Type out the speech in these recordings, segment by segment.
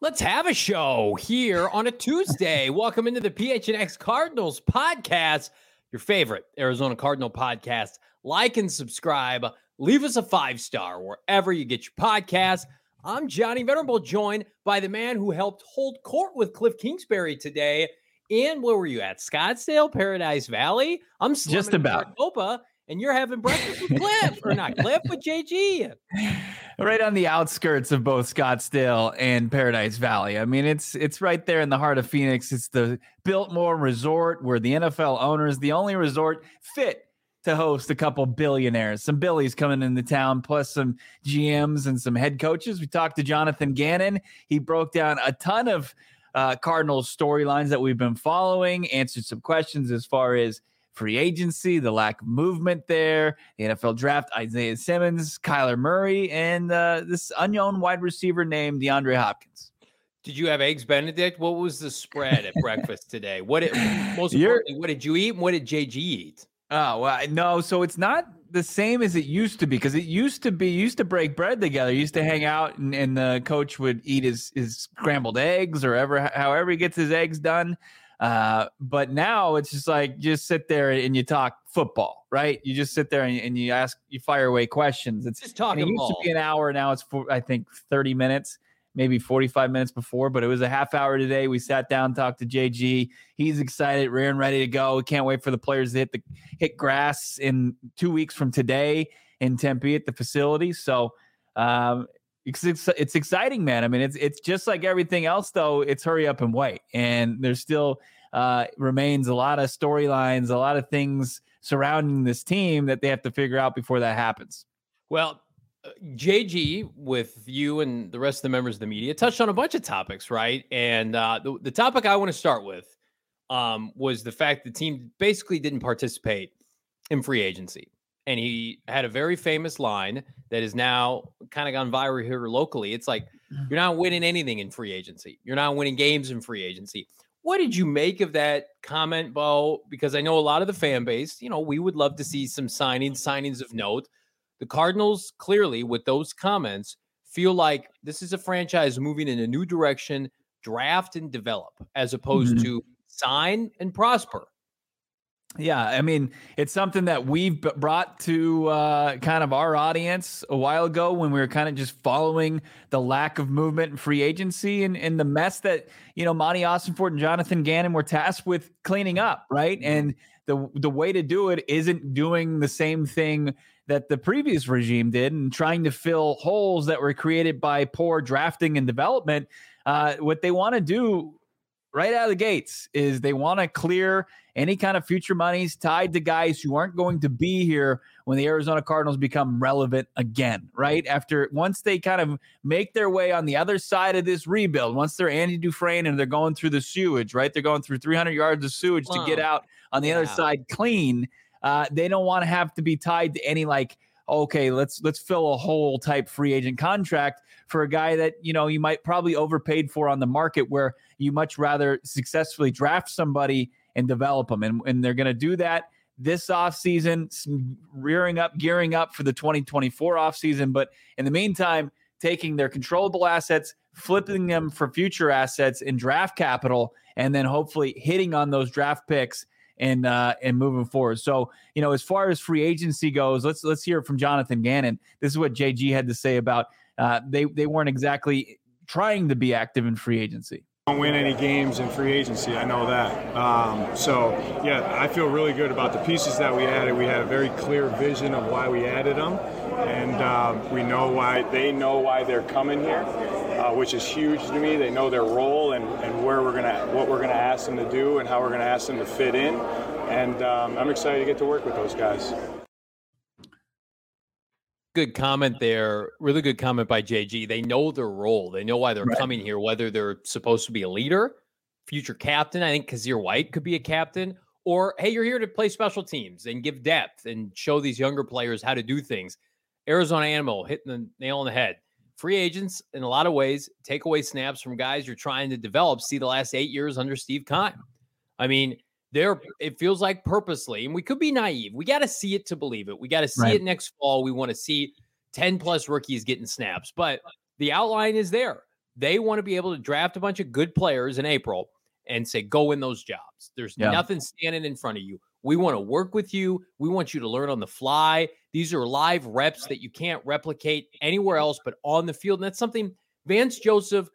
Let's have a show here on a Tuesday. Welcome into the PHNX Cardinals podcast, your favorite Arizona Cardinal podcast. Like and subscribe. Leave us a 5-star wherever you get your podcasts. I'm Johnny Venerable, joined by the man who helped hold court with Cliff Kingsbury today. And where were you at? Scottsdale, Paradise Valley? I'm just about Maricopa, and you're having breakfast with Cliff, or not Cliff, but JG. Right on the outskirts of both Scottsdale and Paradise Valley. I mean, it's right there in the heart of Phoenix. It's the Biltmore Resort, where the NFL owners, the only resort fit to host a couple billionaires, some Billies coming into town, plus some GMs and some head coaches. We talked to Jonathan Gannon. He broke down a ton of Cardinals storylines that we've been following, answered some questions as far as free agency, the lack of movement there, the NFL draft, Isaiah Simmons, Kyler Murray, and this unknown wide receiver named DeAndre Hopkins. Did you have eggs Benedict? What was the spread at breakfast today? Most importantly, what did you eat and what did JG eat? Oh, well, no. So it's not the same as it used to be, because you used to break bread together. You used to hang out and the coach would eat his scrambled eggs or however he gets his eggs done. But now it's just like, just sit there and you talk football, right? You just sit there and you fire away questions. It's just talking. It used to be an hour. Now it's I think 30 minutes, maybe 45 minutes before, but it was a half hour today. We sat down, talked to JG. He's excited, rearing, ready to go. We can't wait for the players to hit grass in 2 weeks from today in Tempe at the facility. So, it's exciting, man. I mean, it's just like everything else, though. It's hurry up and wait. And there's still remains a lot of storylines, a lot of things surrounding this team that they have to figure out before that happens. Well, JG, with you and the rest of the members of the media, touched on a bunch of topics, right? And the topic I want to start with was the fact the team basically didn't participate in free agency. And he had a very famous line that is now kind of gone viral here locally. It's like, you're not winning anything in free agency. You're not winning games in free agency. What did you make of that comment, Bo? Because I know a lot of the fan base, we would love to see some signings of note. The Cardinals, clearly, with those comments, feel like this is a franchise moving in a new direction, draft and develop, as opposed to sign and prosper. Yeah, I mean, it's something that we've brought to kind of our audience a while ago when we were kind of just following the lack of movement in free agency and the mess that, Monty Ossenfort and Jonathan Gannon were tasked with cleaning up, right? And the way to do it isn't doing the same thing that the previous regime did and trying to fill holes that were created by poor drafting and development. What they want to do right out of the gates is they want to clear any kind of future monies tied to guys who aren't going to be here when the Arizona Cardinals become relevant again, right? Once they kind of make their way on the other side of this rebuild, once they're Andy Dufresne and they're going through the sewage, right? They're going through 300 yards of sewage to get out on the other side clean. They don't want to have to be tied to any okay, let's fill a hole type free agent contract for a guy that, you might probably overpaid for on the market, where you much rather successfully draft somebody and develop them. And they're going to do that this offseason, gearing up for the 2024 offseason. But in the meantime, taking their controllable assets, flipping them for future assets in draft capital, and then hopefully hitting on those draft picks and moving forward. So, as far as free agency goes, let's hear it from Jonathan Gannon. This is what JG had to say about they weren't exactly trying to be active in free agency. Don't win any games in free agency. I know that. I feel really good about the pieces that we added. We had a very clear vision of why we added them, and we know why. They know why they're coming here, which is huge to me. They know their role and what we're gonna ask them to do and how we're gonna ask them to fit in. And I'm excited to get to work with those guys. Good comment there. Really good comment by JG. They know their role. They know why they're coming here, whether they're supposed to be a leader, future captain. I think Kazir White could be a captain, or, hey, you're here to play special teams and give depth and show these younger players how to do things. Arizona Animal hitting the nail on the head. Free agents, in a lot of ways, take away snaps from guys you're trying to develop. See the last 8 years under Steve Keim. I mean, it feels like purposely, and we could be naive. We got to see it to believe it. We got to see it next fall. We want to see 10 plus rookies getting snaps, but the outline is there. They want to be able to draft a bunch of good players in April and say, go win those jobs. There's nothing standing in front of you. We want to work with you. We want you to learn on the fly. These are live reps that you can't replicate anywhere else but on the field. And that's something Vance Joseph,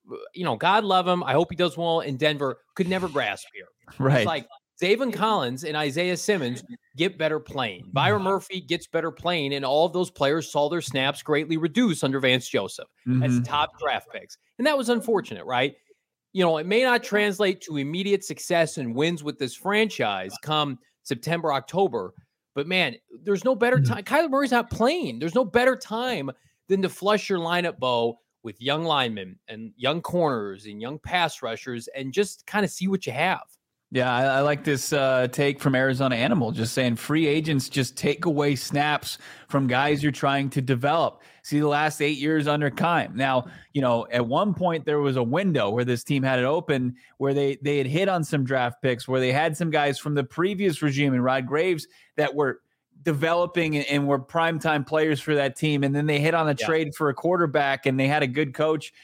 God love him, I hope he does well in Denver, could never grasp here. Right. It's like Zaven Collins and Isaiah Simmons get better playing. Byron Murphy gets better playing, and all of those players saw their snaps greatly reduced under Vance Joseph as top draft picks. And that was unfortunate, right? It may not translate to immediate success and wins with this franchise come September, October, but man, there's no better time. Kyler Murray's not playing. There's no better time than to flush your lineup, Bo, with young linemen and young corners and young pass rushers and just kind of see what you have. Yeah, I like this take from Arizona Animal, just saying free agents just take away snaps from guys you're trying to develop. See the last 8 years under Keim. Now, at one point there was a window where this team had it open where they had hit on some draft picks, where they had some guys from the previous regime and Rod Graves that were developing and were primetime players for that team. And then they hit on a trade for a quarterback, and they had a good coach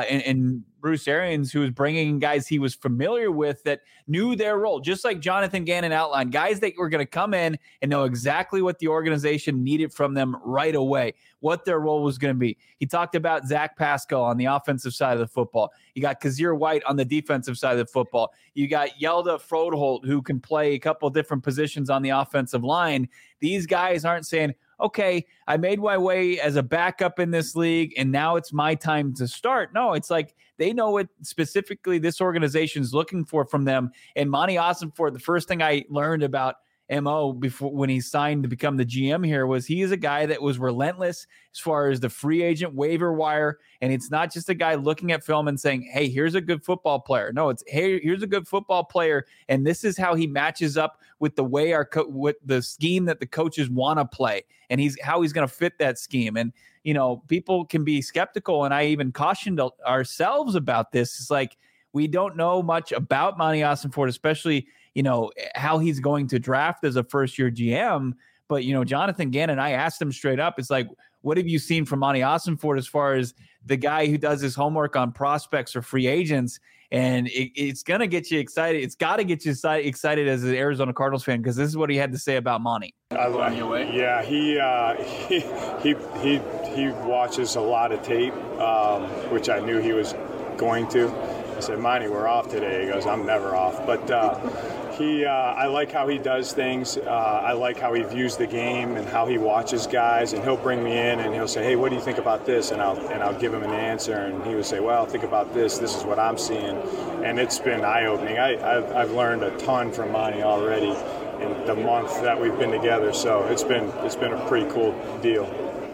and Bruce Arians, who was bringing in guys he was familiar with that knew their role, just like Jonathan Gannon outlined, guys that were going to come in and know exactly what the organization needed from them right away, what their role was going to be. He talked about Zach Pascal on the offensive side of the football. You got Kazir White on the defensive side of the football. You got Yelda Frodeholt, who can play a couple of different positions on the offensive line. These guys aren't saying, okay, I made my way as a backup in this league, and now it's my time to start. No, it's like they know what specifically this organization is looking for from them. And Monty Ossenfort, the first thing I learned about MO before when he signed to become the GM here was he is a guy that was relentless as far as the free agent waiver wire. And it's not just a guy looking at film and saying, hey, here's a good football player. No, it's, hey, here's a good football player. And this is how he matches up with the way with the scheme that the coaches want to play. And how he's going to fit that scheme. And, people can be skeptical. And I even cautioned ourselves about this. It's like, we don't know much about Monty Ossenfort, especially, how he's going to draft as a first-year GM. But, Jonathan Gannon, I asked him straight up, it's like, what have you seen from Monty Ossenfort as far as the guy who does his homework on prospects or free agents? And it's going to get you excited. It's got to get you excited as an Arizona Cardinals fan, because this is what he had to say about Monty. Yeah, he watches a lot of tape, which I knew he was going to. I said, Monty, we're off today. He goes, I'm never off. But I like how he does things. I like how he views the game and how he watches guys. And he'll bring me in and he'll say, hey, what do you think about this? And I'll give him an answer. And he would say, well, think about this. This is what I'm seeing. And it's been eye-opening. I've learned a ton from Monty already in the month that we've been together. So it's been a pretty cool deal.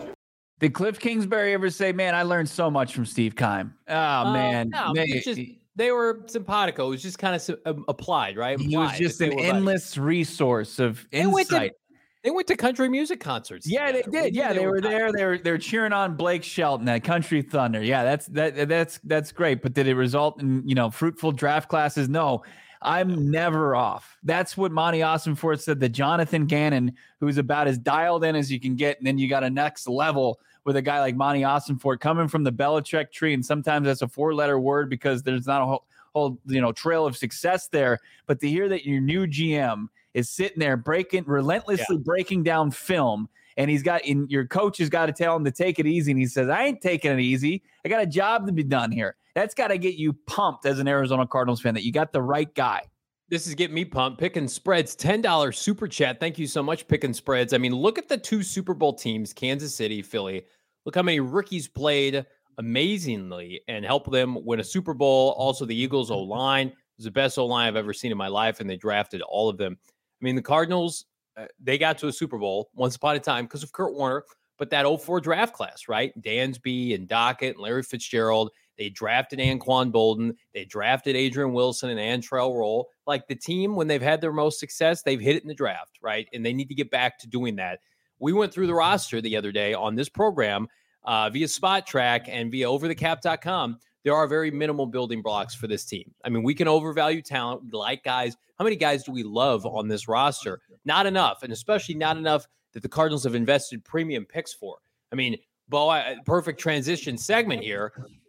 Did Cliff Kingsbury ever say, man, I learned so much from Steve Keim? Oh, man. No, they were simpatico. It was just kind of applied, right? He was just an endless resource of insight. They went to country music concerts. Yeah, together. They did. Yeah, they were there. They were cheering on Blake Shelton at Country Thunder. Yeah, that's great. But did it result in, fruitful draft classes? No. I'm never off. That's what Monty Ossenfort said to Jonathan Gannon, who's about as dialed in as you can get. And then you got a next level with a guy like Monty Ossenfort coming from the Belichick tree. And sometimes that's a 4-letter word because there's not a whole trail of success there. But to hear that your new GM is sitting there relentlessly breaking down film, and your coach has got to tell him to take it easy. And he says, I ain't taking it easy. I got a job to be done here. That's got to get you pumped as an Arizona Cardinals fan that you got the right guy. This is getting me pumped. Picking Spreads, $10 super chat. Thank you so much, Picking Spreads. I mean, look at the 2 Super Bowl teams, Kansas City, Philly. Look how many rookies played amazingly and helped them win a Super Bowl. Also, the Eagles O-line was the best O-line I've ever seen in my life, and they drafted all of them. I mean, the Cardinals, they got to a Super Bowl once upon a time because of Kurt Warner, but that 04 draft class, right? Dansby and Dockett and Larry Fitzgerald. They drafted Anquan Bolden. They drafted Adrian Wilson and Antrell Roll. Like the team, when they've had their most success, they've hit it in the draft, right? And they need to get back to doing that. We went through the roster the other day on this program via Spot Track and via overthecap.com. There are very minimal building blocks for this team. I mean, we can overvalue talent. We like guys. How many guys do we love on this roster? Not enough, and especially not enough that the Cardinals have invested premium picks for. I mean, Bo, perfect transition segment here.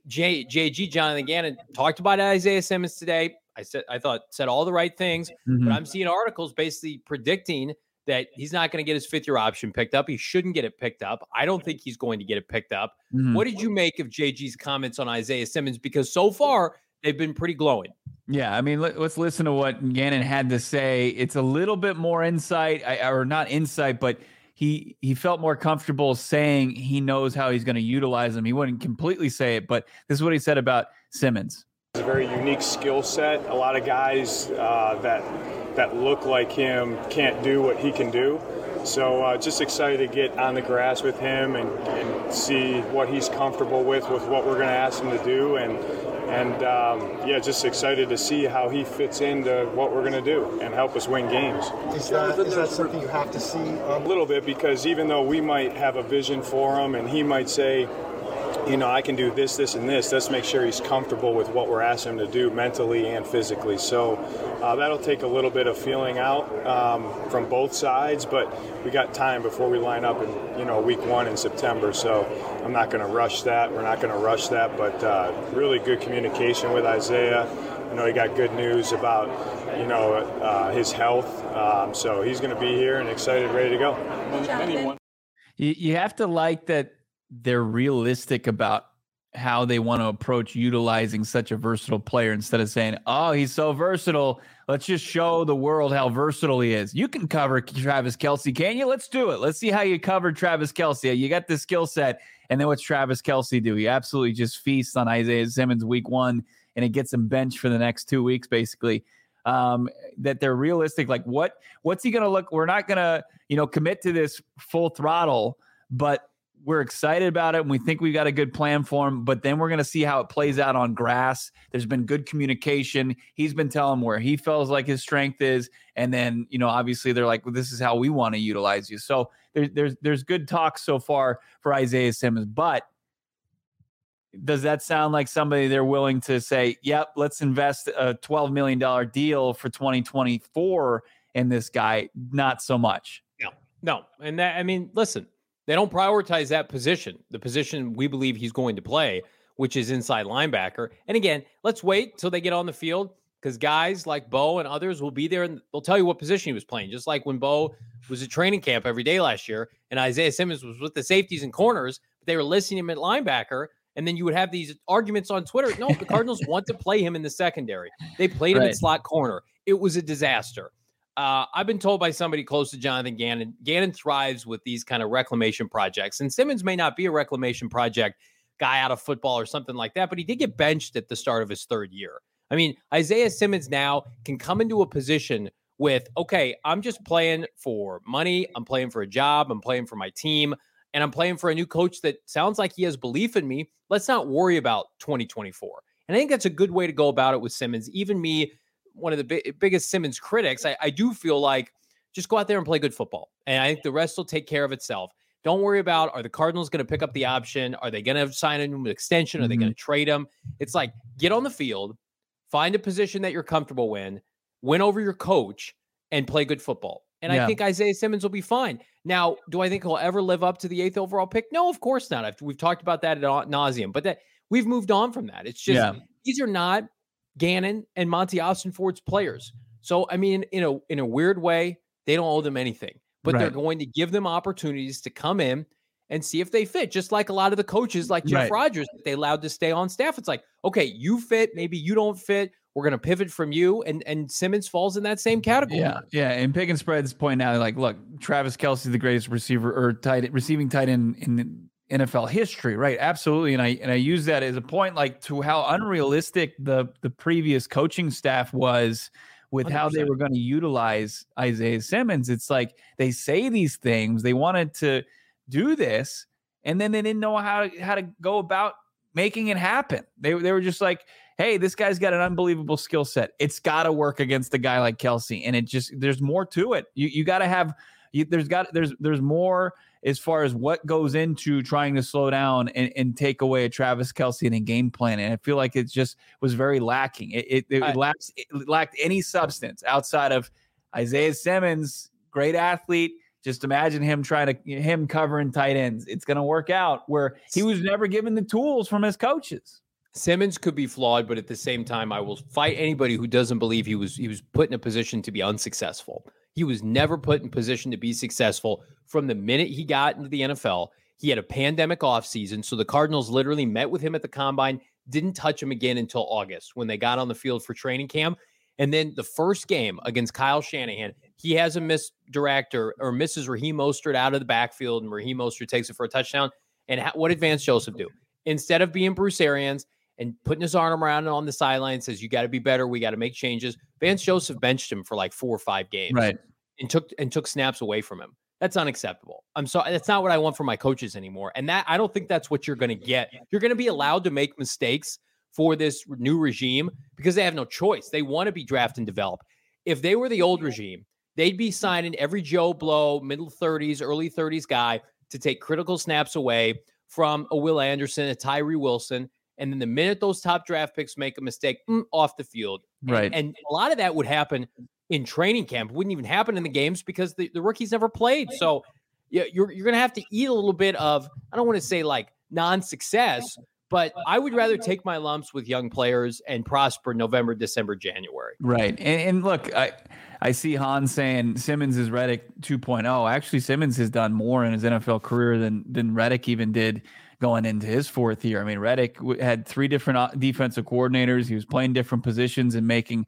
JG, Jonathan Gannon, talked about Isaiah Simmons today. I thought said all the right things, but I'm seeing articles basically predicting that he's not going to get his 5th-year option picked up. He shouldn't get it picked up. I don't think he's going to get it picked up. What did you make of JG's comments on Isaiah Simmons? Because so far they've been pretty glowing. Yeah, I mean, let's listen to what Gannon had to say. It's a little bit more insight, or not insight, but he felt more comfortable saying he knows how he's going to utilize him. He wouldn't completely say it, but this is what he said about Simmons. It's a very unique skill set. A lot of guys that look like him can't do what he can do. So just excited to get on the grass with him and see what he's comfortable with what we're going to ask him to do. And just excited to see how he fits into what we're going to do and help us win games. Is that something you have to see? A little bit, because even though we might have a vision for him and he might say, I can do this, this, and this, let's make sure he's comfortable with what we're asking him to do mentally and physically. So that'll take a little bit of feeling out from both sides, but we got time before we line up in week 1 in September. So I'm not going to rush that. We're not going to rush that, but really good communication with Isaiah. He got good news about his health. So he's going to be here and excited, ready to go. You have to like that they're realistic about how they want to approach utilizing such a versatile player, instead of saying, oh, he's so versatile, let's just show the world how versatile he is. You can cover Travis Kelce, can't you? Let's do it. Let's see how you cover Travis Kelce. You got the skill set. And then what's Travis Kelce do? He absolutely just feasts on Isaiah Simmons week 1, and it gets him benched for the next 2 weeks, basically. That they're realistic. Like, what's he going to look? We're not going to, commit to this full throttle, but we're excited about it, and we think we've got a good plan for him, but then we're going to see how it plays out on grass. There's been good communication. He's been telling where he feels like his strength is, and then, obviously they're like, well, this is how we want to utilize you. So there's good talk so far for Isaiah Simmons, but does that sound like somebody they're willing to say, yep, let's invest a $12 million deal for 2024 in this guy? Not so much. No. And listen, they don't prioritize that position, the position we believe he's going to play, which is inside linebacker. And again, let's wait till they get on the field, because guys like Bo and others will be there and they'll tell you what position he was playing. Just like when Bo was at training camp every day last year and Isaiah Simmons was with the safeties and corners, but they were listing him at linebacker. And then you would have these arguments on Twitter. No, the Cardinals want to play him in the secondary. They played him at slot corner. It was a disaster. I've been told by somebody close to Jonathan Gannon, Gannon thrives with these kind of reclamation projects. And Simmons may not be a reclamation project guy out of football or something like that, but he did get benched at the start of his 3rd year. I mean, Isaiah Simmons now can come into a position with, okay, I'm just playing for money. I'm playing for a job. I'm playing for my team. And I'm playing for a new coach that sounds like he has belief in me. Let's not worry about 2024. And I think that's a good way to go about it with Simmons. Even me, one of the biggest Simmons critics, I do feel like just go out there and play good football. And I think the rest will take care of itself. Don't worry about, are the Cardinals going to pick up the option? Are they going to sign a new extension? Are they going to trade him? It's like, get on the field, find a position that you're comfortable in, win over your coach, and play good football. And I think Isaiah Simmons will be fine. Now, do I think he'll ever live up to the 8th overall pick? No, of course not. We've talked about that ad nauseum, but we've moved on from that. It's just, these are not Gannon and Monty Austin-Ford's players. So, I mean, in a weird way, they don't owe them anything, but they're going to give them opportunities to come in and see if they fit. Just like a lot of the coaches, like Jeff Rodgers, that they allowed to stay on staff. It's like, okay, you fit, maybe you don't fit. We're going to pivot from you, and Simmons falls in that same category. Yeah. And Pick and Spread's pointing out, like, look, Travis Kelce is the greatest receiver or receiving tight end in NFL history, right? Absolutely. And I use that as a point, like, to how unrealistic the previous coaching staff was with 100%. How they were going to utilize Isaiah Simmons. It's like they say these things, they wanted to do this, and then they didn't know how to go about making it happen. They were just like, hey, this guy's got an unbelievable skill set. It's got to work against a guy like Kelce. And there's more to it. You got to have, there's more as far as what goes into trying to slow down and take away a Travis Kelce in a game plan. And I feel like it just was very lacking. It lacked any substance outside of Isaiah Simmons, great athlete. Just imagine him him covering tight ends. It's going to work out, where he was never given the tools from his coaches. Simmons could be flawed, but at the same time, I will fight anybody who doesn't believe he was put in a position to be unsuccessful. He was never put in position to be successful from the minute he got into the NFL. He had a pandemic offseason, so the Cardinals literally met with him at the combine, didn't touch him again until August when they got on the field for training camp. And then the first game against Kyle Shanahan, he has a misses Raheem Mostert out of the backfield, and Raheem Mostert takes it for a touchdown. And what did Vance Joseph do? Instead of being Bruce Arians and putting his arm around him on the sideline, says, you got to be better. We got to make changes. Vance Joseph benched him for like 4 or 5 games, right? And took snaps away from him. That's unacceptable. I'm sorry. That's not what I want from my coaches anymore. And I don't think that's what you're going to get. You're going to be allowed to make mistakes for this new regime because they have no choice. They want to be draft and develop. If they were the old regime, they'd be signing every Joe Blow, middle 30s, early 30s guy to take critical snaps away from a Will Anderson, a Tyree Wilson. And then the minute those top draft picks make a mistake, off the field. Right. And a lot of that would happen in training camp. It wouldn't even happen in the games because the rookies never played. So yeah, you're going to have to eat a little bit of, I don't want to say like non-success, but I would rather take my lumps with young players and prosper November, December, January. Right. And look, I see Hans saying Simmons is Reddick 2.0. Actually, Simmons has done more in his NFL career than Reddick even did going into his 4th year. I mean, Reddick had 3 different defensive coordinators. He was playing different positions and making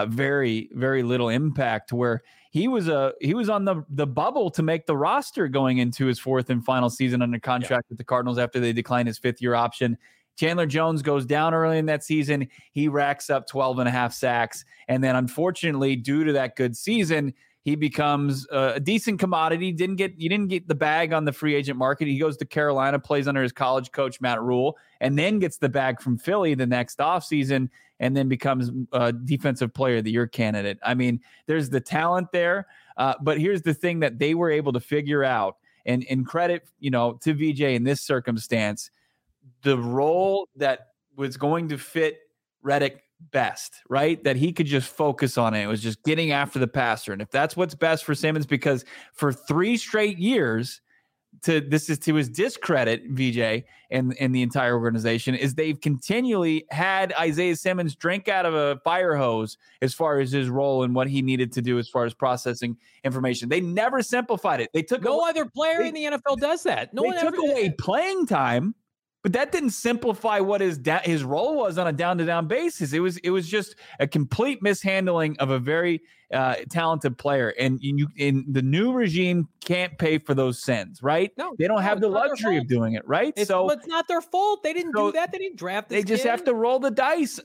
very, very little impact to where he was on the bubble to make the roster going into his 4th and final season under contract with the Cardinals after they declined his 5th-year option. Chandler Jones goes down early in that season. He racks up 12.5 sacks. And then unfortunately, due to that good season, he becomes a decent commodity. You didn't get the bag on the free agent market. He goes to Carolina, plays under his college coach, Matt Rule, and then gets the bag from Philly the next offseason and then becomes a defensive player of the year candidate. I mean, there's the talent there. But here's the thing that they were able to figure out, and credit, to VJ in this circumstance, the role that was going to fit Reddick best, right? That he could just focus on it. It was just getting after the passer. And if that's what's best for Simmons, because for 3 straight years, this is to his discredit, VJ, and the entire organization, is they've continually had Isaiah Simmons drink out of a fire hose as far as his role and what he needed to do as far as processing information. They never simplified it. They took other player in the NFL does that. They took away playing time. But that didn't simplify what his role was on a down-to-down basis. It was just a complete mishandling of a very talented player. And the new regime can't pay for those sins, right? No, they don't have the luxury of doing it, right? It's not their fault. They didn't do that. They didn't draft this They just have to roll the dice.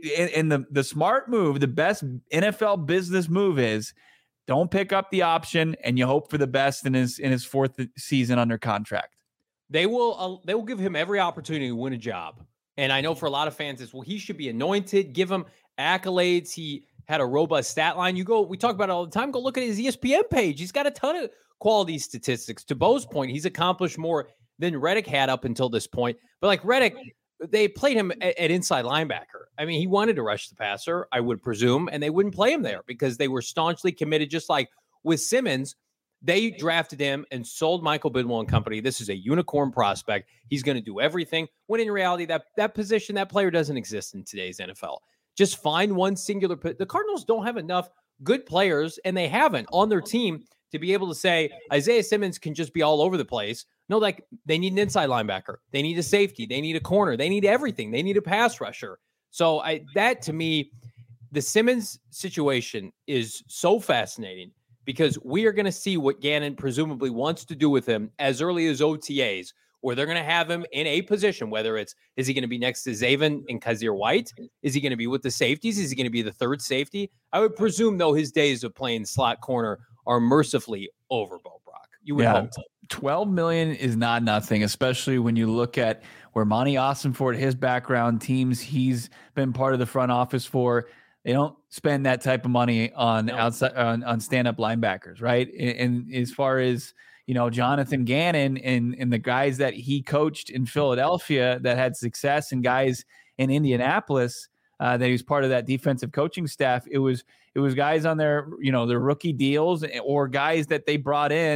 The smart move, the best NFL business move is don't pick up the option and you hope for the best in his 4th season under contract. They will give him every opportunity to win a job. And I know for a lot of fans, he should be anointed, give him accolades. He had a robust stat line. We talk about it all the time. Go look at his ESPN page. He's got a ton of quality statistics. To Bo's point, he's accomplished more than Reddick had up until this point. But like Reddick, they played him at inside linebacker. I mean, he wanted to rush the passer, I would presume, and they wouldn't play him there because they were staunchly committed, just like with Simmons. They drafted him and sold Michael Bidwell and company. This is a unicorn prospect. He's going to do everything. When in reality, that position, that player doesn't exist in today's NFL. Just find one singular. The Cardinals don't have enough good players, and they haven't on their team to be able to say Isaiah Simmons can just be all over the place. No, like they need an inside linebacker. They need a safety. They need a corner. They need everything. They need a pass rusher. So that to me, the Simmons situation is so fascinating, because we are going to see what Gannon presumably wants to do with him as early as OTAs, where they're going to have him in a position, whether is he going to be next to Zaven and Kazir White? Is he going to be with the safeties? Is he going to be the third safety? I would presume, though, his days of playing slot corner are mercifully over, Bo Brock. You would hope. $12 million is not nothing, especially when you look at where Monty Ossenfort, his background, teams he's been part of the front office for. They don't spend that type of money on outside on stand-up linebackers, right? And as far as Jonathan Gannon and the guys that he coached in Philadelphia that had success, and guys in Indianapolis that he was part of that defensive coaching staff, it was guys on their rookie deals, or guys that they brought in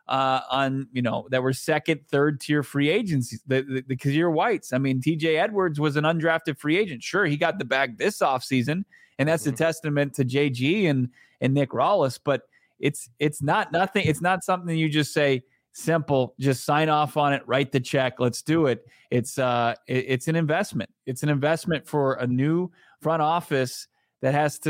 that were second, third tier free agents, the Kazir Whites. I mean, TJ Edwards was an undrafted free agent. Sure, he got the bag this offseason, and that's a testament to JG and Nick Rawlis, but it's not nothing. It's not something you just say simple, just sign off on it, write the check, let's do it. It's an investment. It's an investment for a new front office that's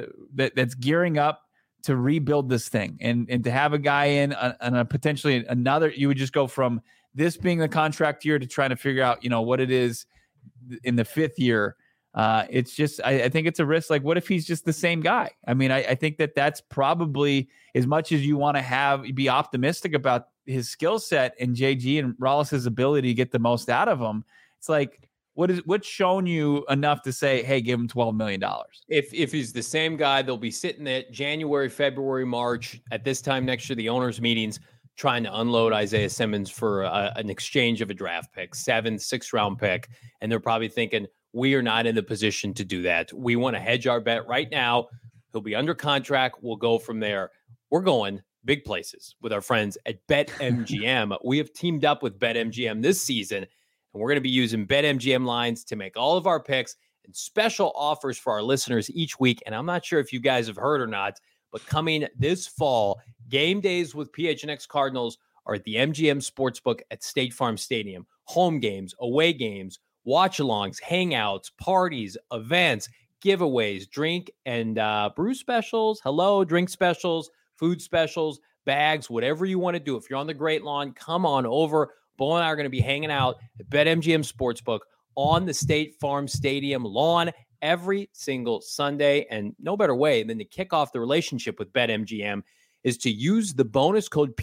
gearing up to rebuild this thing, and to have a guy in on a potentially another, you would just go from this being the contract year to trying to figure out, what it is in the fifth year. It's just, I think it's a risk. Like, what if he's just the same guy? I mean, I think that's probably, as much as you want to be optimistic about his skill set and JG and Rawlis' ability to get the most out of him. It's like, what's shown you enough to say, hey, give him $12 million? If he's the same guy, they'll be sitting at January, February, March at this time next year, the owners' meetings, trying to unload Isaiah Simmons for an exchange of a draft pick, 7th, 6th round pick. And they're probably thinking, we are not in the position to do that. We want to hedge our bet right now. He'll be under contract. We'll go from there. We're going big places with our friends at BetMGM. We have teamed up with BetMGM this season, and we're going to be using BetMGM lines to make all of our picks and special offers for our listeners each week. And I'm not sure if you guys have heard or not, but coming this fall, game days with PHNX Cardinals are at the MGM Sportsbook at State Farm Stadium. Home games, away games, watch-alongs, hangouts, parties, events, giveaways, drink and brew specials, drink specials, food specials, bags, whatever you want to do. If you're on the Great Lawn, come on over. Bo and I are going to be hanging out at BetMGM Sportsbook on the State Farm Stadium lawn every single Sunday. And no better way than to kick off the relationship with BetMGM is to use the bonus code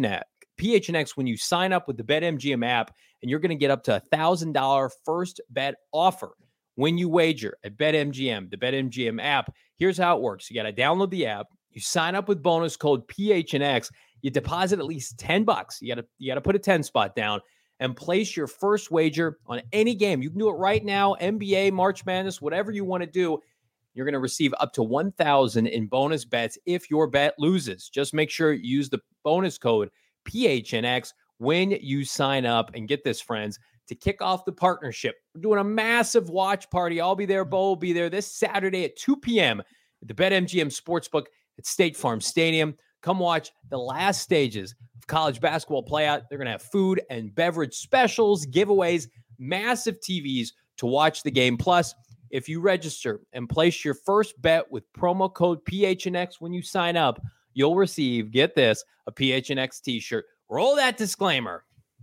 PHNX when you sign up with the BetMGM app, and you're going to get up to $1,000 first bet offer when you wager at BetMGM, the BetMGM app. Here's how it works. You got to download the app. You sign up with bonus code PHNX. You deposit at least $10. You got to put a 10 spot down and place your first wager on any game. You can do it right now, NBA, March Madness, whatever you want to do. You're going to receive up to $1,000 in bonus bets if your bet loses. Just make sure you use the bonus code PHNX when you sign up. And get this, friends, to kick off the partnership, we're doing a massive watch party. I'll be there. Bo will be there this Saturday at 2 p.m. at the BetMGM Sportsbook at State Farm Stadium. Come watch the last stages of college basketball playout. They're going to have food and beverage specials, giveaways, massive TVs to watch the game. Plus, if you register and place your first bet with promo code PHNX when you sign up, you'll receive, get this, a PHNX t-shirt. Roll that disclaimer.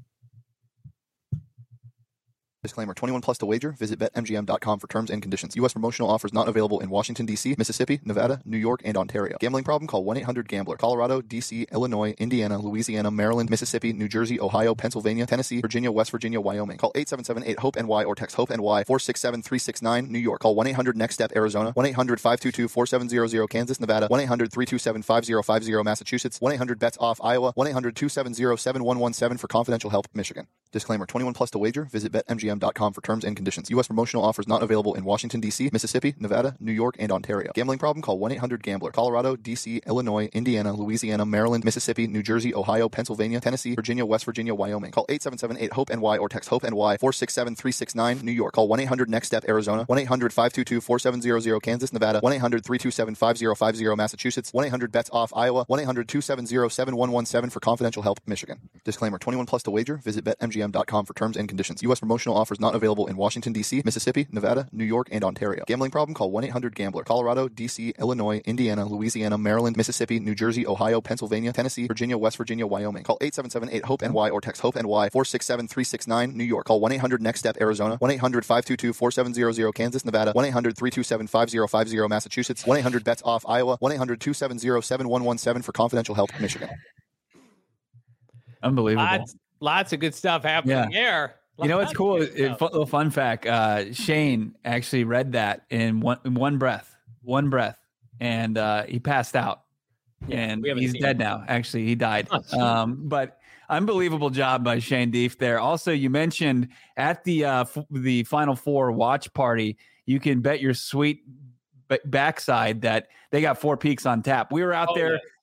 Disclaimer, 21 plus to wager. Visit BetMGM.com for terms and conditions. U.S. promotional offers not available in Washington, D.C., Mississippi, Nevada, New York, and Ontario. Gambling problem? Call 1-800-GAMBLER. Colorado, D.C., Illinois, Indiana, Louisiana, Maryland, Mississippi, New Jersey, Ohio, Pennsylvania, Tennessee, Virginia, West Virginia, Wyoming. Call 877-8-HOPE-NY or text HOPE-NY 467-369, New York. Call 1-800-NEXT-STEP, Arizona. 1-800-522-4700, Kansas, Nevada. 1-800-327-5050, Massachusetts. 1-800-BETS-OFF, Iowa. 1-800-270-7117 for confidential help, Michigan. Disclaimer, 21 plus to wager. Visit BetMGM.com for terms and conditions. U.S. promotional offers not available in Washington, D.C., Mississippi, Nevada, New York, and Ontario. Gambling problem? Call 1-800-GAMBLER. Colorado, D.C., Illinois, Indiana, Louisiana, Maryland, Mississippi, New Jersey, Ohio, Pennsylvania, Tennessee, Virginia, West Virginia, Wyoming. Call 877-8-HOPE-NY or text HOPE-NY 467-369, New York. Call 1-800-NEXT-STEP, Arizona. 1-800-522-4700, Kansas, Nevada. 1-800-327-5050, Massachusetts. 1-800-BETS-OFF, Iowa. 1-800-270-7117 for confidential help, Michigan. Disclaimer, 21 plus to wager. Visit BetMGM.com for terms and conditions. U.S. promotional offers not available in Washington, D.C., Mississippi, Nevada, New York, and Ontario. Gambling problem? Call 1-800-GAMBLER. Colorado, D.C., Illinois, Indiana, Louisiana, Maryland, Mississippi, New Jersey, Ohio, Pennsylvania, Tennessee, Virginia, West Virginia, Wyoming. Call 877-8-HOPE-NY or text HOPE-NY 467-369, New York. Call 1-800-NEXT-STEP, Arizona. 1-800-522-4700, Kansas, Nevada. 1-800-327-5050, Massachusetts. 1-800-BETS-OFF, Iowa. 1-800-270-7117 for confidential help, Michigan. Unbelievable. Lots of good stuff happening here. You know what's cool? Little fun fact. Shane actually read that in one breath, and he passed out. Yeah, and he's dead now. Actually, he died. But unbelievable job by Shane Deef there. Also, you mentioned at the Final Four watch party, you can bet your sweet backside that they got Four Peaks on tap. We were out there. Yeah.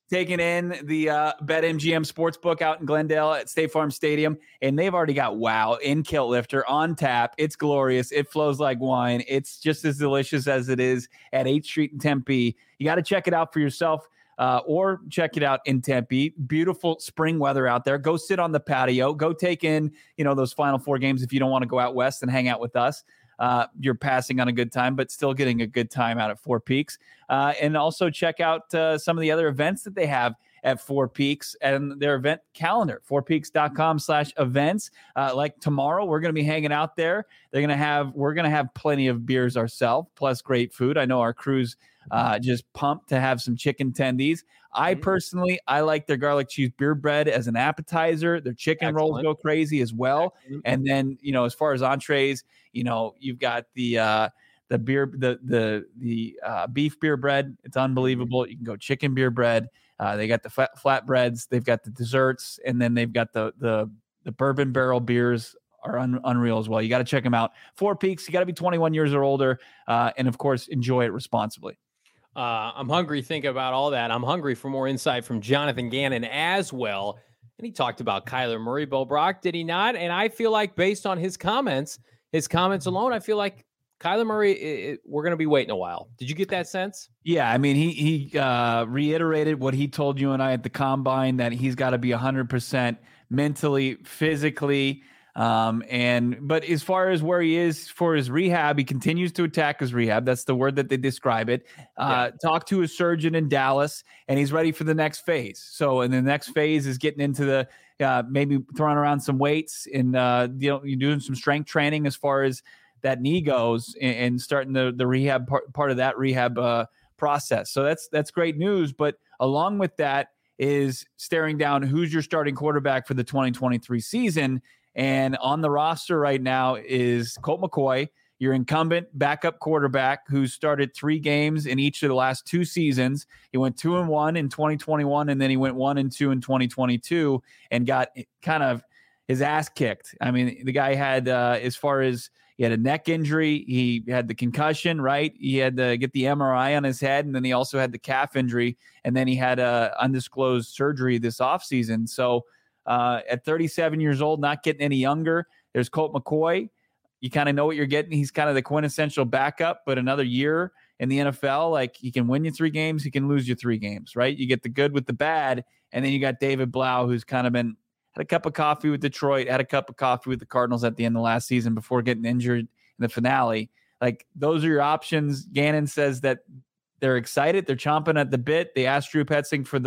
taking in the BetMGM Sportsbook out in Glendale at State Farm Stadium, and they've already got Wow in Kilt Lifter on tap. It's glorious. It flows like wine. It's just as delicious as it is at 8th Street in Tempe. You got to check it out for yourself. Or check it out in Tempe. Beautiful spring weather out there. Go sit on the patio. Go take in, those Final Four games if you don't want to go out west and hang out with us. You're passing on a good time, but still getting a good time out at Four Peaks. And also check out some of the other events that they have at Four Peaks and their event calendar, fourpeaks.com/events. Like tomorrow, we're going to be hanging out there. We're going to have plenty of beers ourselves, plus great food. I know our crew's just pumped to have some chicken tendies. I personally like their garlic cheese beer bread as an appetizer. Their chicken rolls go crazy as well. And then, as far as entrees, you've got the beer, the beef beer bread. It's unbelievable. You can go chicken beer bread. They got the flatbreads. They've got the desserts, and then they've got the bourbon barrel beers are unreal as well. You got to check them out. Four Peaks. You got to be 21 years or older, and of course, enjoy it responsibly. I'm hungry thinking about all that. I'm hungry for more insight from Jonathan Gannon as well. And he talked about Kyler Murray, Bo Brock, did he not? And I feel like based on his comments alone, I feel like Kyler Murray, we're going to be waiting a while. Did you get that sense? Yeah, I mean, he reiterated what he told you and I at the Combine, that he's got to be 100% mentally, physically, but as far as where he is for his rehab, he continues to attack his rehab. That's the word that they describe it. Talk to a surgeon in Dallas, and he's ready for the next phase. So, and the next phase is getting into the maybe throwing around some weights and you're doing some strength training as far as that knee goes, and starting the rehab part of that rehab process. So that's great news. But along with that is staring down who's your starting quarterback for the 2023 season. And on the roster right now is Colt McCoy, your incumbent backup quarterback, who started 3 games in each of the last 2 seasons. He went 2-1 in 2021, and then he went 1-2 in 2022 and got kind of his ass kicked. I mean, the guy had, as far as he had a neck injury, he had the concussion, right? He had to get the MRI on his head, and then he also had the calf injury, and then he had a undisclosed surgery this offseason. So, at 37 years old, not getting any younger. There's Colt McCoy. You kind of know what you're getting. He's kind of the quintessential backup, but another year in the NFL, like, he can win you 3 games, he can lose you 3 games, right? You get the good with the bad, and then you got David Blau, who's kind of had a cup of coffee with Detroit, had a cup of coffee with the Cardinals at the end of last season before getting injured in the finale. Like, those are your options. Gannon says that they're excited. They're chomping at the bit. They asked Drew Petzing for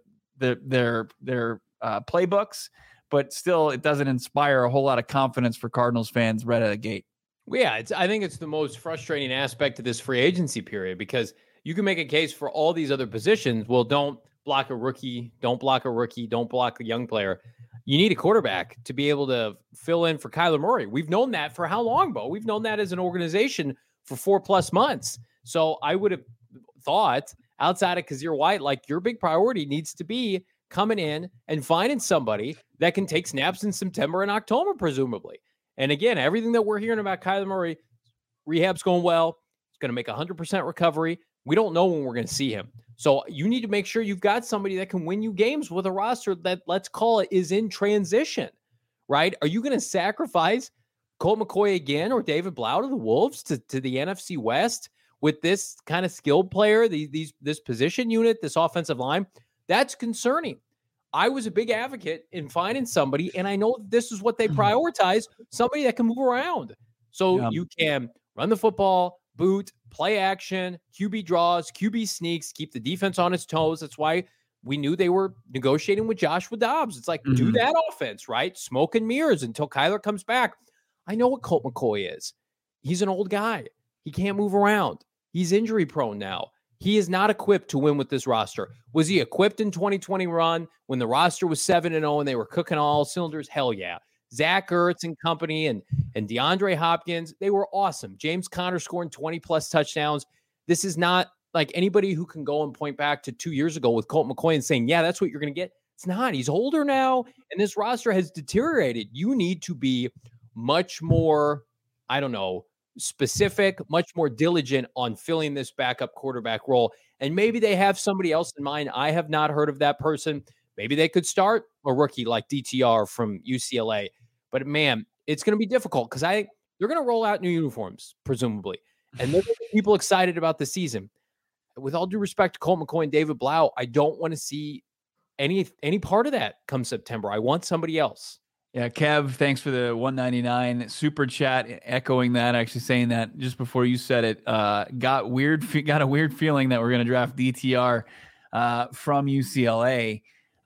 their playbooks, but still it doesn't inspire a whole lot of confidence for Cardinals fans right out of the gate. Well, yeah, I think it's the most frustrating aspect of this free agency period, because you can make a case for all these other positions. Well, don't block a rookie, don't block a young player. You need a quarterback to be able to fill in for Kyler Murray. We've known that for how long, Bo? We've known that as an organization for 4+ months. So I would have thought, outside of Kazir White, like, your big priority needs to be coming in and finding somebody that can take snaps in September and October, presumably. And again, everything that we're hearing about Kyler Murray, rehab's going well. It's going to make 100% recovery. We don't know when we're going to see him. So you need to make sure you've got somebody that can win you games with a roster that, let's call it, is in transition, right? Are you going to sacrifice Colt McCoy again or David Blau to the Wolves to the NFC West with this kind of skilled player, this position unit, this offensive line? That's concerning. I was a big advocate in finding somebody, and I know this is what they prioritize, somebody that can move around. So you can run the football, boot, play action, QB draws, QB sneaks, keep the defense on its toes. That's why we knew they were negotiating with Joshua Dobbs. It's like, do that offense, right? Smoke and mirrors until Kyler comes back. I know what Colt McCoy is. He's an old guy. He can't move around. He's injury prone now. He is not equipped to win with this roster. Was he equipped in 2020 run when the roster was 7-0 and they were cooking all cylinders? Hell yeah. Zach Ertz and company and DeAndre Hopkins, they were awesome. James Conner scoring 20+ touchdowns. This is not like anybody who can go and point back to 2 years ago with Colt McCoy and saying, yeah, that's what you're going to get. It's not. He's older now, and this roster has deteriorated. You need to be much more, specific, much more diligent on filling this backup quarterback role. And maybe they have somebody else in mind. I have not heard of that person. Maybe they could start a rookie like DTR from UCLA. But man, it's going to be difficult because they're going to roll out new uniforms, presumably. And they're going to get people excited about the season. With all due respect to Colt McCoy and David Blau, I don't want to see any part of that come September. I want somebody else. Yeah, Kev, thanks for the 199 super chat, echoing that, actually saying that just before you said it. Got a weird feeling that we're going to draft DTR from UCLA.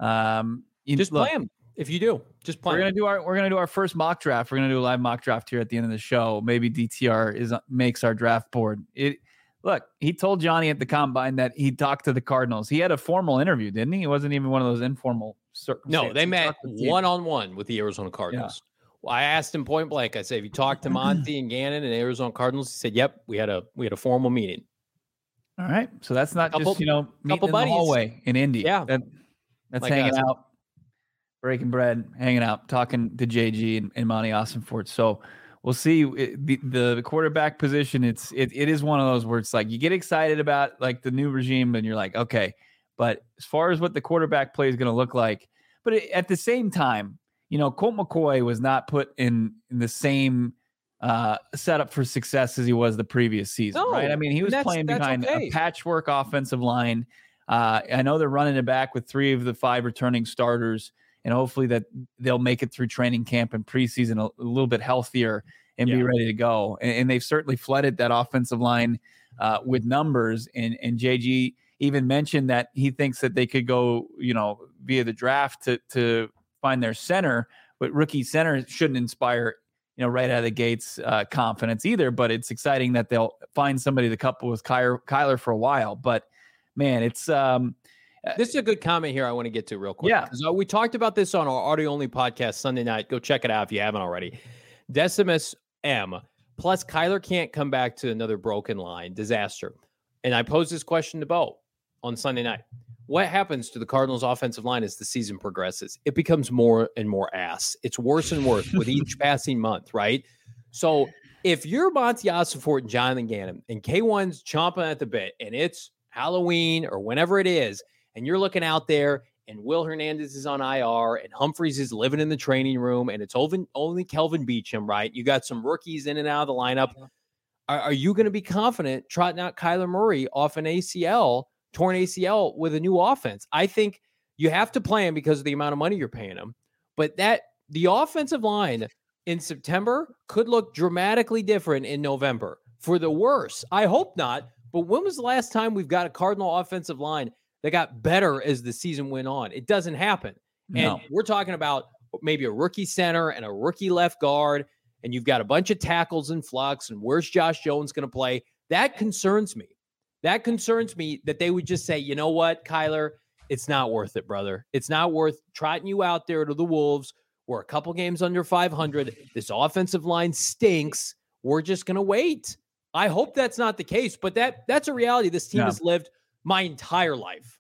Play him if you do. Just play. We're gonna do our first mock draft. We're gonna do a live mock draft here at the end of the show. Maybe DTR makes our draft board. Look, he told Johnny at the combine that he talked to the Cardinals. He had a formal interview, didn't he? It wasn't even one of those informal circumstances. No, they met one-on-one with the Arizona Cardinals. Yeah. Well, I asked him point blank. I said, "Have you talked to Monty and Gannon and the Arizona Cardinals?" He said, "Yep, we had a formal meeting." All right, so that's not just meeting in the hallway in Indy. Yeah, that's like hanging out, breaking bread, hanging out, talking to JG and Monty Ossenfort. So we'll see. The quarterback position, it is one of those where it's like you get excited about like the new regime and you're like, okay, but as far as what the quarterback play is going to look like, but at the same time, Colt McCoy was not put in the same setup for success as he was the previous season, right? I mean, he was playing behind a patchwork offensive line. I know they're running it back with 3 of the 5 returning starters, and hopefully that they'll make it through training camp and preseason a little bit healthier and be ready to go. And they've certainly flooded that offensive line with numbers. And JG even mentioned that he thinks that they could go, via the draft to find their center, but rookie center shouldn't inspire, right out of the gates confidence either. But it's exciting that they'll find somebody to couple with Kyler for a while. But man, it's this is a good comment here I want to get to real quick. Yeah. Because we talked about this on our audio-only podcast Sunday night. Go check it out if you haven't already. Decimus M. Plus, Kyler can't come back to another broken line. Disaster. And I posed this question to Bo on Sunday night. What happens to the Cardinals' offensive line as the season progresses? It becomes more and more ass. It's worse and worse with each passing month, right? So if you're Monty Ossenfort and Jonathan Gannon and K1's chomping at the bit and it's Halloween or whenever it is, and you're looking out there and Will Hernandez is on IR and Humphreys is living in the training room and it's only Kelvin Beachum, right? You got some rookies in and out of the lineup. Are you going to be confident trotting out Kyler Murray off an torn ACL with a new offense? I think you have to play him because of the amount of money you're paying him. But the offensive line in September could look dramatically different in November for the worse. I hope not. But when was the last time we've got a Cardinal offensive line that got better as the season went on? It doesn't happen. No. And we're talking about maybe a rookie center and a rookie left guard, and you've got a bunch of tackles in flux, and where's Josh Jones going to play? That concerns me. That concerns me that they would just say, you know what, Kyler, it's not worth it, brother. It's not worth trotting you out there to the Wolves. We're a couple games under 500. This offensive line stinks. We're just going to wait. I hope that's not the case, but that's a reality this team has lived my entire life.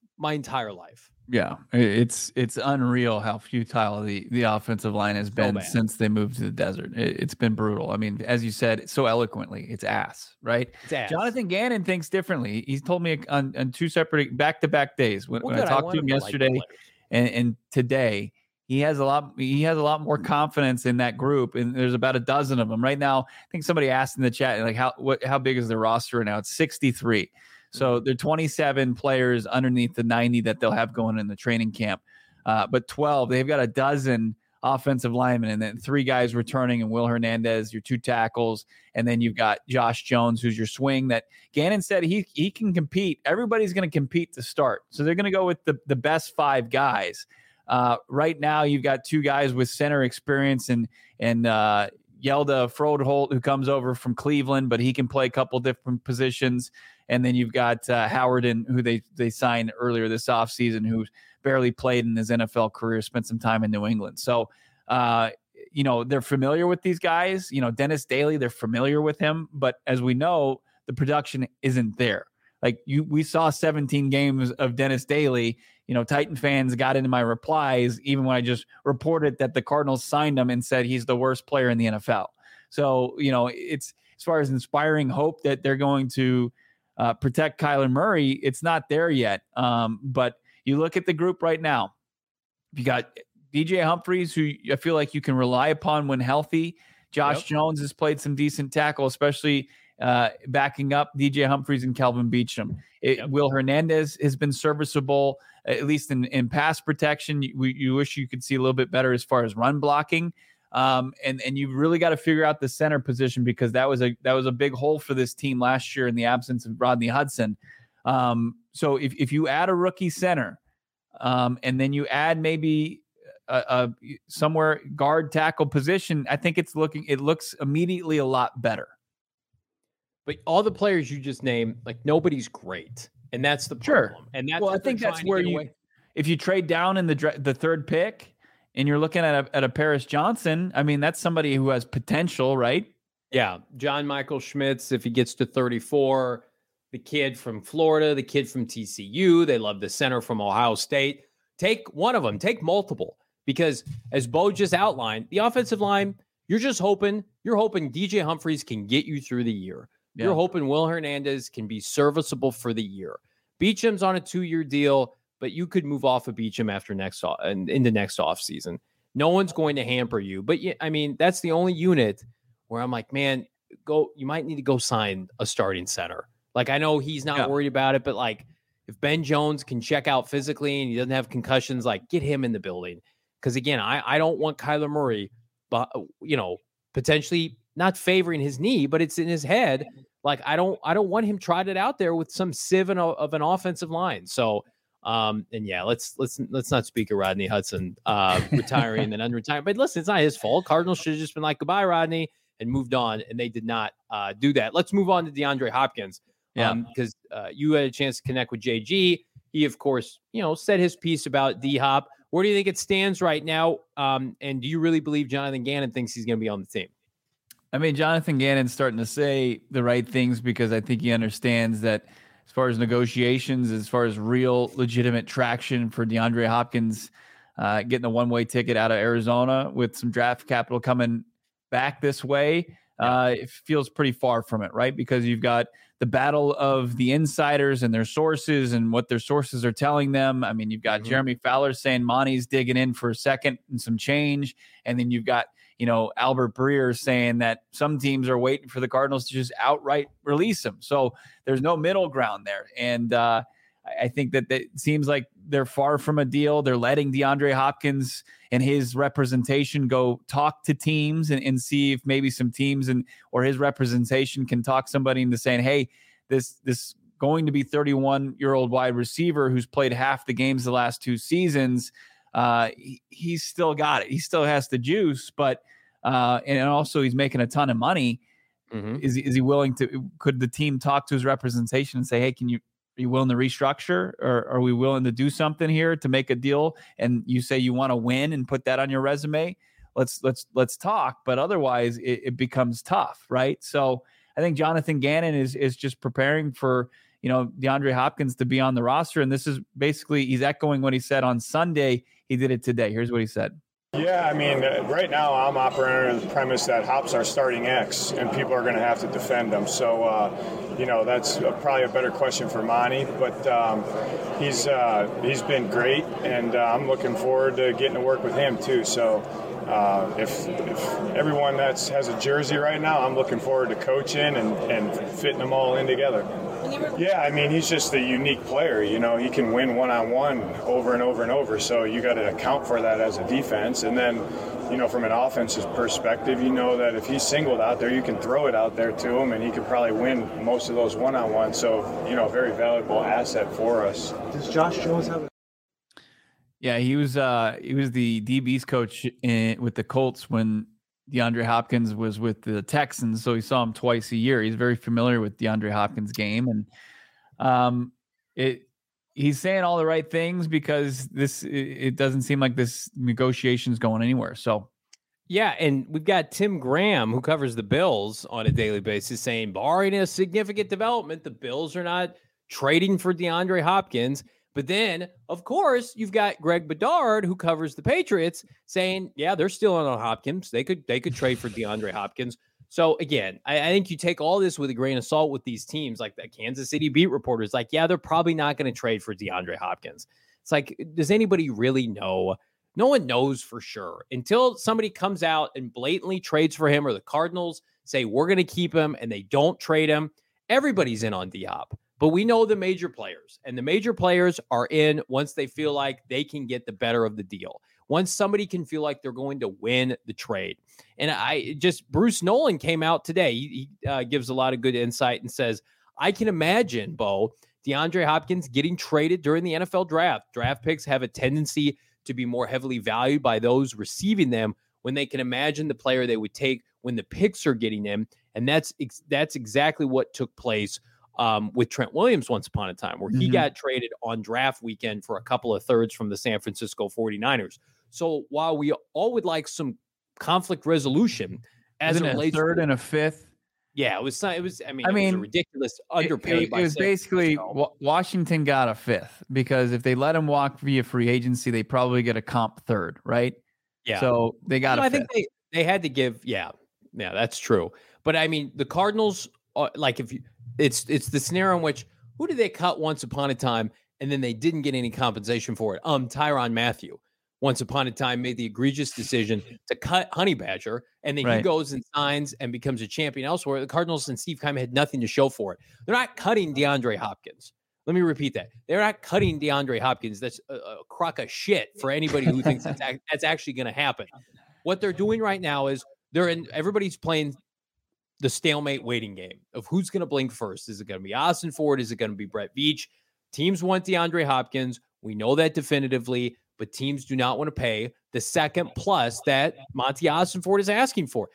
Yeah, it's unreal how futile the offensive line has been since they moved to the desert. It's been brutal. I mean, as you said so eloquently, it's ass, right? It's ass. Jonathan Gannon thinks differently. He's told me on 2 separate back-to-back days when I talked to him yesterday and today. He has a lot more confidence in that group, and there's about a dozen of them right now. I think somebody asked in the chat, like, how big is the roster now? It's 63. So there are 27 players underneath the 90 that they'll have going in the training camp. But 12, they've got a dozen offensive linemen, and then 3 guys returning, and Will Hernandez, your 2 tackles, and then you've got Josh Jones, who's your swing. That Gannon said he can compete. Everybody's going to compete to start, so they're going to go with the best 5 guys. Right now, you've got 2 guys with center experience and Yelda Frodeholt, who comes over from Cleveland, but he can play a couple different positions. And then you've got Howard, who they signed earlier this offseason, who barely played in his NFL career, spent some time in New England. So, they're familiar with these guys. Dennis Daly, they're familiar with him. But as we know, the production isn't there. Like we saw 17 games of Dennis Daly. Titan fans got into my replies, even when I just reported that the Cardinals signed him and said he's the worst player in the NFL. So, it's as far as inspiring hope that they're going to protect Kyler Murray, it's not there yet. But you look at the group right now. You got DJ Humphries, who I feel like you can rely upon when healthy. Josh Jones has played some decent tackle, especially backing up DJ Humphries and Kelvin Beachum. Will Hernandez has been serviceable, at least in pass protection. You wish you could see a little bit better as far as run blocking. And you really got to figure out the center position, because that was a big hole for this team last year in the absence of Rodney Hudson. So if you add a rookie center, and then you add maybe somewhere guard tackle position, I think it looks immediately a lot better. But all the players you just named, like, nobody's great, and that's the problem. Sure. And that's I think that's where if you trade down in the third pick and you're looking at a Paris Johnson, I mean, that's somebody who has potential, right? Yeah, John Michael Schmitz, if he gets to 34, the kid from Florida, the kid from TCU, they love the center from Ohio State. Take one of them, take multiple, because as Bo just outlined, the offensive line, you're hoping DJ Humphries can get you through the year. Yeah. You're hoping Will Hernandez can be serviceable for the year. Beacham's on a 2-year deal, but you could move off of Beacham in the next offseason. No one's going to hamper you. But yeah, I mean, that's the only unit where I'm like, man, you might need to go sign a starting center. Like, I know he's not worried about it, but like, if Ben Jones can check out physically and he doesn't have concussions, like, get him in the building. Because again, I don't want Kyler Murray, but potentially not favoring his knee, but it's in his head. Like, I don't want him trotted out there with some sieve of an offensive line. So, and yeah, let's not speak of Rodney Hudson retiring and unretiring. But listen, it's not his fault. Cardinals should have just been like, goodbye, Rodney, and moved on, and they did not do that. Let's move on to DeAndre Hopkins. Because you had a chance to connect with JG. He, of course, said his piece about D-Hop. Where do you think it stands right now? And do you really believe Jonathan Gannon thinks he's going to be on the team? I mean, Jonathan Gannon's starting to say the right things, because I think he understands that as far as negotiations, as far as real legitimate traction for DeAndre Hopkins, getting a one-way ticket out of Arizona with some draft capital coming back this way, it feels pretty far from it, right? Because you've got the battle of the insiders and their sources and what their sources are telling them. I mean, you've got Jeremy Fowler saying Monty's digging in for a second and some change. And then you've got, Albert Breer saying that some teams are waiting for the Cardinals to just outright release him. So there's no middle ground there. And I think that it seems like they're far from a deal. They're letting DeAndre Hopkins and his representation go talk to teams and see if maybe some teams or his representation can talk somebody into saying, hey, this going to be 31-year-old wide receiver who's played half the games the last 2 seasons. He's still got it. He still has the juice, but and also he's making a ton of money. Mm-hmm. Is he willing to? Could the team talk to his representation and say, hey, are you willing to restructure, or are we willing to do something here to make a deal? And you say you want to win and put that on your resume. Let's talk. But otherwise, it becomes tough, right? So I think Jonathan Gannon is just preparing for DeAndre Hopkins to be on the roster, and this is basically he's echoing what he said on Sunday. He did it today. Here's what he said. Yeah, I mean, right now I'm operating under the premise that Hop's our starting X, and people are going to have to defend him. So, that's probably a better question for Monty. But he's been great, and I'm looking forward to getting to work with him too. So, if everyone has a jersey right now, I'm looking forward to coaching and fitting them all in together. Yeah, I mean, he's just a unique player. He can win one-on-one over and over and over. So you got to account for that as a defense. And then, from an offensive perspective, that if he's singled out there, you can throw it out there to him, and he could probably win most of those one-on-ones. So, very valuable asset for us. Does Josh Jones have Yeah, he was the DB's coach with the Colts when DeAndre Hopkins was with the Texans, so he saw him twice a year. He's very familiar with DeAndre Hopkins' game, and he's saying all the right things because it doesn't seem like this negotiation is going anywhere. So, yeah, and we've got Tim Graham, who covers the Bills on a daily basis, saying, barring a significant development, the Bills are not trading for DeAndre Hopkins. But then, of course, you've got Greg Bedard, who covers the Patriots, saying, yeah, they're still on Hopkins. They could trade for DeAndre Hopkins. So again, I think you take all this with a grain of salt with these teams, like the Kansas City beat reporters, like, yeah, they're probably not going to trade for DeAndre Hopkins. It's like, does anybody really know? No one knows for sure until somebody comes out and blatantly trades for him, or the Cardinals say, we're going to keep him, and they don't trade him. Everybody's in on D-Hop, but we know the major players, and the major players are in once they feel like they can get the better of the deal. Once somebody can feel like they're going to win the trade. And Bruce Nolan came out today. He gives a lot of good insight and says, I can imagine, Bo, DeAndre Hopkins getting traded during the NFL draft. Draft picks have a tendency to be more heavily valued by those receiving them when they can imagine the player they would take when the picks are getting them. And that's exactly what took place with Trent Williams once upon a time, where he got traded on draft weekend for a couple of thirds from the San Francisco 49ers. So while we all would like some conflict resolution as it relates a third and a fifth. Yeah, it was a ridiculous underpay. It was basically Washington got a fifth, because if they let him walk via free agency, they probably get a comp third, right? Yeah. So they got I think they had to give. Yeah, that's true. But I mean, the Cardinals, it's the scenario in which, who did they cut once upon a time and then they didn't get any compensation for it? Tyrann Mathieu. Once upon a time, made the egregious decision to cut Honey Badger, and then he goes and signs and becomes a champion elsewhere. The Cardinals and Steve Keim had nothing to show for it. They're not cutting DeAndre Hopkins. Let me repeat that. They're not cutting DeAndre Hopkins. That's a crock of shit for anybody who thinks that's actually going to happen. What they're doing right now is everybody's playing the stalemate waiting game of who's going to blink first. Is it going to be Austin Ford? Is it going to be Brett Veach? Teams want DeAndre Hopkins. We know that definitively. But teams do not want to pay the second plus that Monty Ossenfort is asking for.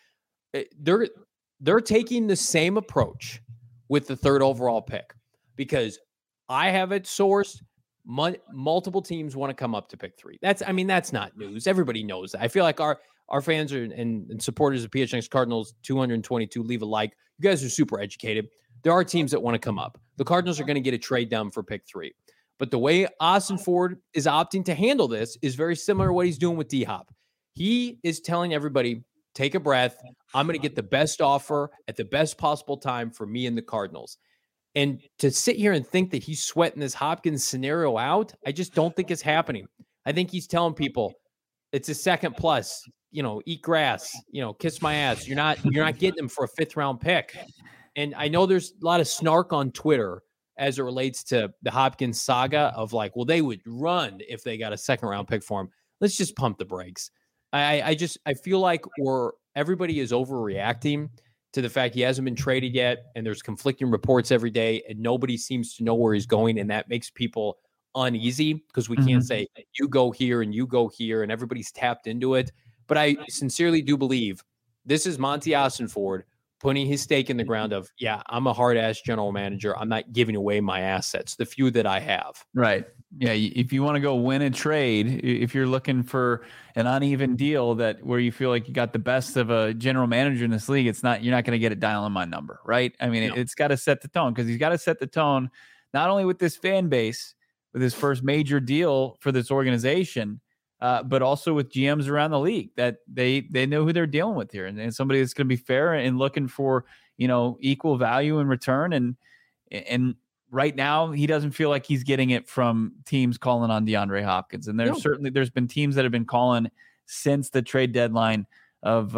They're taking the same approach with the third overall pick, because I have it sourced. Multiple teams want to come up to pick 3. That's not news. Everybody knows that. I feel like our fans and supporters of PHNX Cardinals 222 leave a like. You guys are super educated. There are teams that want to come up. The Cardinals are going to get a trade down for pick 3. But the way Ossenfort is opting to handle this is very similar to what he's doing with D-Hop. He is telling everybody, take a breath. I'm going to get the best offer at the best possible time for me and the Cardinals. And to sit here and think that he's sweating this Hopkins scenario out, I just don't think it's happening. I think he's telling people it's a second plus, eat grass, kiss my ass. You're not getting him for a 5th round pick. And I know there's a lot of snark on Twitter as it relates to the Hopkins saga of like, well, they would run if they got a 2nd round pick for him. Let's just pump the brakes. I feel like everybody is overreacting to the fact he hasn't been traded yet, and there's conflicting reports every day, and nobody seems to know where he's going, and that makes people uneasy because we can't say you go here and you go here, and everybody's tapped into it. But I sincerely do believe this is Monty Ossenfort putting his stake in the ground of, I'm a hard-ass general manager. I'm not giving away my assets, the few that I have. Right. Yeah, if you want to go win a trade, if you're looking for an uneven deal where you feel like you got the best of a general manager in this league, you're not going to get it dialing my number, right? I mean, it's got to set the tone, because he's got to set the tone not only with this fan base, with his first major deal for this organization, but also with GMs around the league, that they know who they're dealing with here, and somebody that's going to be fair and looking for equal value in return. And right now, he doesn't feel like he's getting it from teams calling on DeAndre Hopkins, and there's been teams that have been calling since the trade deadline of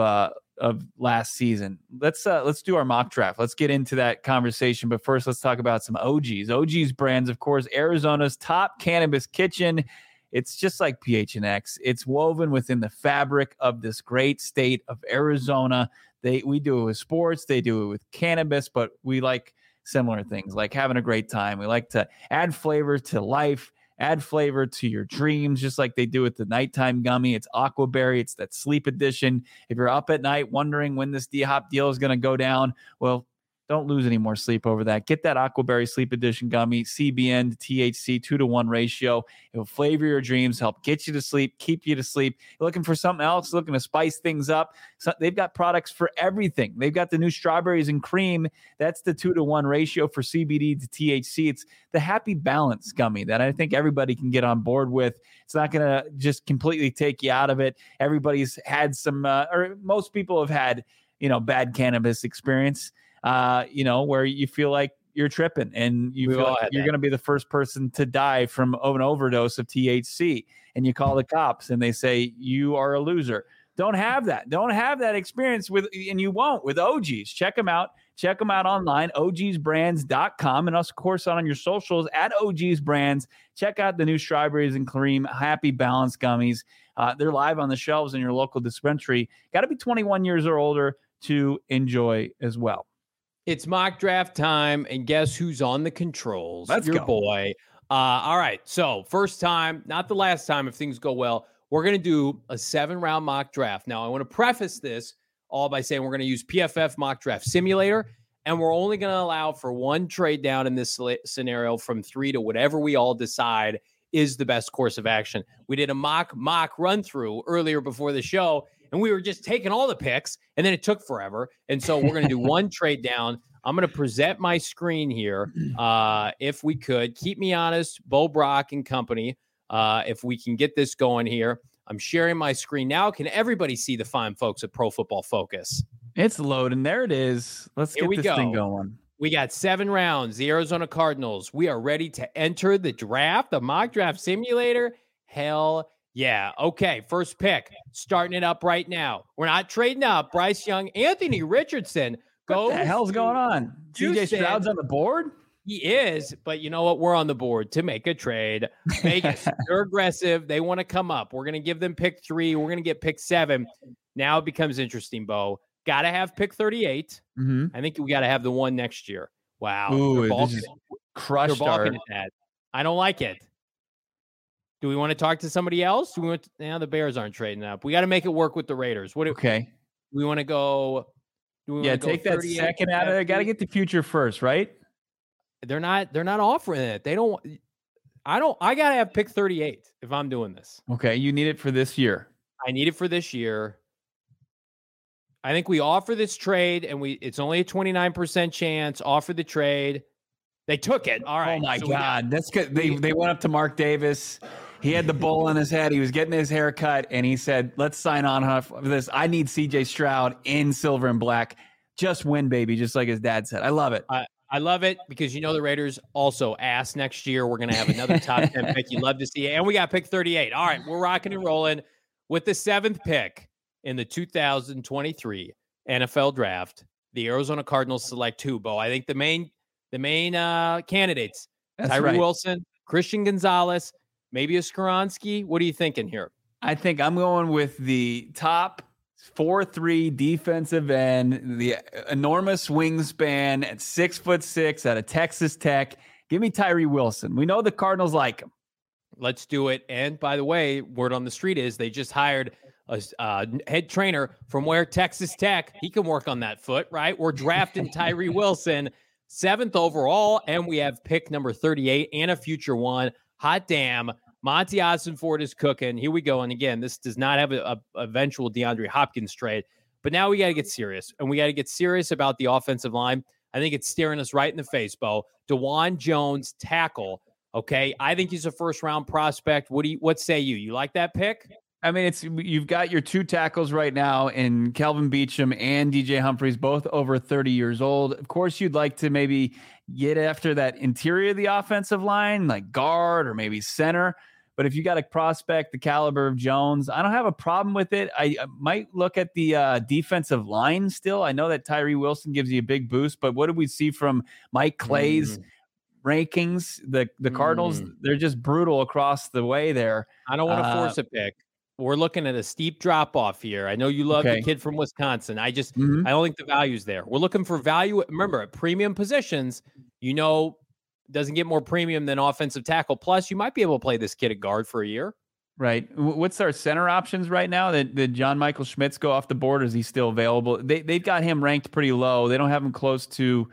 last season. Let's do our mock draft. Let's get into that conversation, but first, let's talk about some OGs. OGs brands, of course, Arizona's top cannabis kitchen. It's just like PHNX. It's woven within the fabric of this great state of Arizona. We do it with sports. They do it with cannabis, but we like similar things, like having a great time. We like to add flavor to life, add flavor to your dreams, just like they do with the nighttime gummy. It's Aquaberry. It's that sleep edition. If you're up at night wondering when this D-Hop deal is going to go down, well, don't lose any more sleep over that. Get that Aquaberry Sleep Edition gummy, CBN to THC 2-to-1 ratio. It will flavor your dreams, help get you to sleep, keep you to sleep. You're looking for something else, looking to spice things up. So they've got products for everything. They've got the new strawberries and cream. That's the 2-to-1 ratio for CBD to THC. It's the happy balance gummy that I think everybody can get on board with. It's not going to just completely take you out of it. Everybody's had some, or most people have had, bad cannabis experience, where you feel like you're tripping and you feel like you're going to be the first person to die from an overdose of THC, and you call the cops and they say you are a loser. Don't have that. Don't have that experience and you won't with OGs. Check them out. Check them out online, ogsbrands.com, and of course on your socials at ogsbrands. Check out the new Strawberries and Cream Happy Balance gummies. They're live on the shelves in your local dispensary. Got to be 21 years or older to enjoy as well. It's mock draft time, and guess who's on the controls? Let's Your go. boy. All right, so first time, not the last time if things go well, we're going to do a 7-round mock draft. Now, I want to preface this all by saying we're going to use PFF Mock Draft Simulator, and we're only going to allow for one trade down in this scenario from 3 to whatever we all decide is the best course of action. We did a mock run through earlier before the show, and we were just taking all the picks, and then it took forever. And so we're going to do one trade down. I'm going to present my screen here. If we could, keep me honest, Bo Brock and company, if we can get this going here. I'm sharing my screen now. Can everybody see the fine folks at Pro Football Focus? It's loading. There it is. Let's get this thing going. We got 7 rounds. The Arizona Cardinals. We are ready to enter the draft, the mock draft simulator. Hell yeah. Okay, first pick. Starting it up right now. We're not trading up. Bryce Young, Anthony Richardson. What the hell's going on? CJ Stroud's on the board? He is, but you know what? We're on the board to make a trade. Vegas, they're aggressive. They want to come up. We're going to give them pick 3. We're going to get pick 7. Now it becomes interesting, Bo. Got to have pick 38. Mm-hmm. I think we got to have the one next year. Wow. Ooh, this is crushed. They're balking at that. I don't like it. Do we want to talk to somebody else? Do we want now the Bears aren't trading up. We got to make it work with the Raiders. Okay. Do we want to go? Take that second out of there. Got to get the future first, right? They're not offering it. They don't. I got to have pick 38 if I'm doing this. Okay. You need it for this year. I need it for this year. I think we offer this trade, and it's only a 29% chance. Offer the trade. They took it. All right. Oh my God. That's good. They went up to Mark Davis. He had the bowl on his head. He was getting his hair cut, and he said, let's sign on for this. I need CJ Stroud in silver and black. Just win, baby, just like his dad said. I love it. I love it because the Raiders also asked next year. We're going to have another top 10 pick. You love to see it. And we got pick 38. All right, we're rocking and rolling with the 7th pick in the 2023 NFL Draft. The Arizona Cardinals select who, Bo? I think the main candidates, Tyree Wilson, Christian Gonzalez, maybe a Skoronski. What are you thinking here? I think I'm going with the top 4'3" defensive end, the enormous wingspan at 6'6" out of Texas Tech. Give me Tyree Wilson. We know the Cardinals like him. Let's do it. And by the way, word on the street is they just hired a head trainer from Texas Tech. He can work on that foot, right? We're drafting Tyree Wilson 7th overall, and we have pick number 38 and a future one. Hot damn. Monty Ossenford is cooking. Here we go. And again, this does not have a eventual DeAndre Hopkins trade, but now we got to get serious, and we got to get serious about the offensive line. I think it's staring us right in the face, Bo. DeJuan Jones, tackle. Okay. I think he's a first-round prospect. What say you? You like that pick? I mean, you've got your 2 tackles right now in Kelvin Beachum and DJ Humphries, both over 30 years old. Of course, you'd like to maybe get after that interior of the offensive line, like guard or maybe center. But if you got a prospect the caliber of Jones, I don't have a problem with it. I might look at the defensive line still. I know that Tyree Wilson gives you a big boost, but what did we see from Mike Clay's rankings? The Cardinals, they're just brutal across the way there. I don't want to force a pick. We're looking at a steep drop off here. I know you love the kid from Wisconsin. I don't think the value's there. We're looking for value. Remember, at premium positions, doesn't get more premium than offensive tackle. Plus, you might be able to play this kid at guard for a year. Right. What's our center options right now? Did John Michael Schmitz go off the board? Or is he still available? They've got him ranked pretty low. They don't have him close to.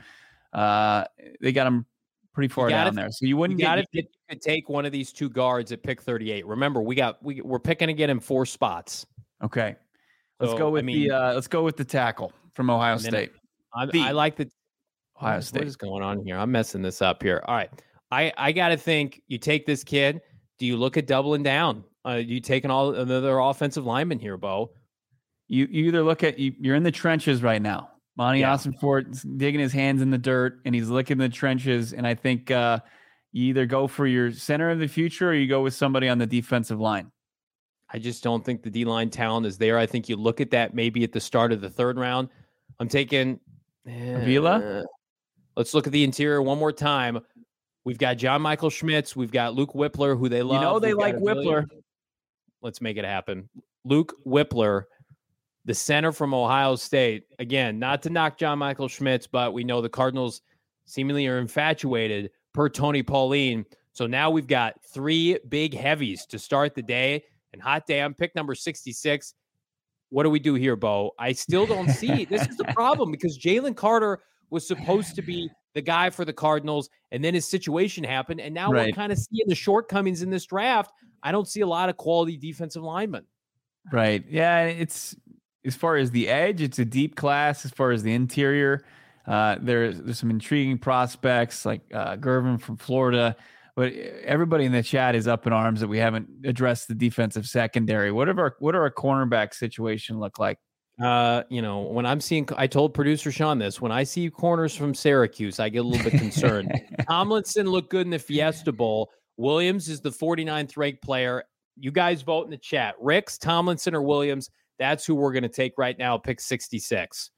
They got him pretty far down there. So you wouldn't get. You could take one of these 2 guards at pick 38. Remember, we're picking to get him 4 spots. Okay. Let's go with the tackle from Ohio State. I like the. Ohio State. What is going on here? I'm messing this up here. All right. I got to think you take this kid. Do you look at doubling down? You taking all another offensive lineman here, Bo? you either look at you're in the trenches right now. Monty Ossenfort's digging his hands in the dirt and he's licking the trenches. And I think you either go for your center of the future or you go with somebody on the defensive line. I just don't think the D-line talent is there. I think you look at that maybe at the start of the third round. I'm taking Avila. Let's look at the interior one more time. We've got John Michael Schmitz. We've got Luke Whippler, who they love. You know they like Whippler. Let's make it happen. Luke Whippler, the center from Ohio State. Again, not to knock John Michael Schmitz, but we know the Cardinals seemingly are infatuated per Tony Pauline. So now we've got 3 big heavies to start the day. And hot damn, pick number 66. What do we do here, Bo? I still don't see. This is the problem because Jalen Carter was supposed to be the guy for the Cardinals, and then his situation happened, and now we're kind of seeing the shortcomings in this draft. I don't see a lot of quality defensive linemen. Right. Yeah, it's as far as the edge, it's a deep class. As far as the interior, there's some intriguing prospects like Gervin from Florida. But everybody in the chat is up in arms that we haven't addressed the defensive secondary. What are our cornerback situation look like? When I'm seeing, I told producer Sean this, when I see corners from Syracuse, I get a little bit concerned. Tomlinson looked good in the Fiesta Bowl. Williams is the 49th ranked player. You guys vote in the chat. Ricks, Tomlinson, or Williams. That's who we're going to take right now. Pick 66.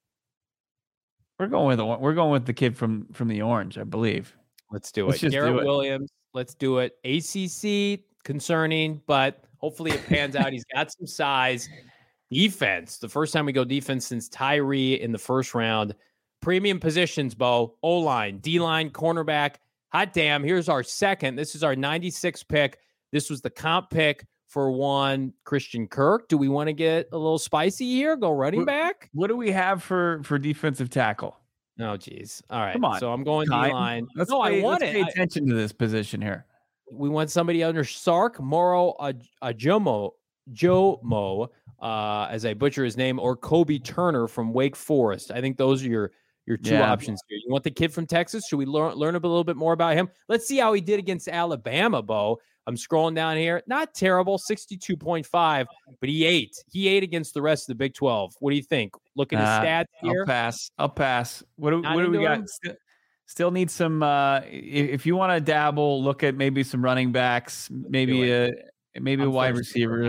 We're going with the kid from the Orange, I believe. Let's do it. Garrett Williams. Let's do it. ACC, concerning, but hopefully it pans out. He's got some size. Defense. The first time we go defense since Tyree in the first round. Premium positions, Bo. O-line, D-line, cornerback. Hot damn. Here's our second. This is our 96 pick. This was the comp pick for one Christian Kirk. Do we want to get a little spicy here? Go running back? What do we have for defensive tackle? Oh, geez. All right. Come on. So I'm going D-line. Let's pay attention to this position here. We want somebody under Sark, Moro Jomo, as I butcher his name, or Kobe Turner from Wake Forest. I think those are your two options here. You want the kid from Texas? Should we learn a little bit more about him? Let's see how he did against Alabama, Bo. I'm scrolling down here. Not terrible, 62.5, but he ate. He ate against the rest of the Big 12. What do you think? Look at his stats here. I'll pass. What do we got? Still need some. If you want to dabble, look at maybe some running backs, maybe a wide receiver.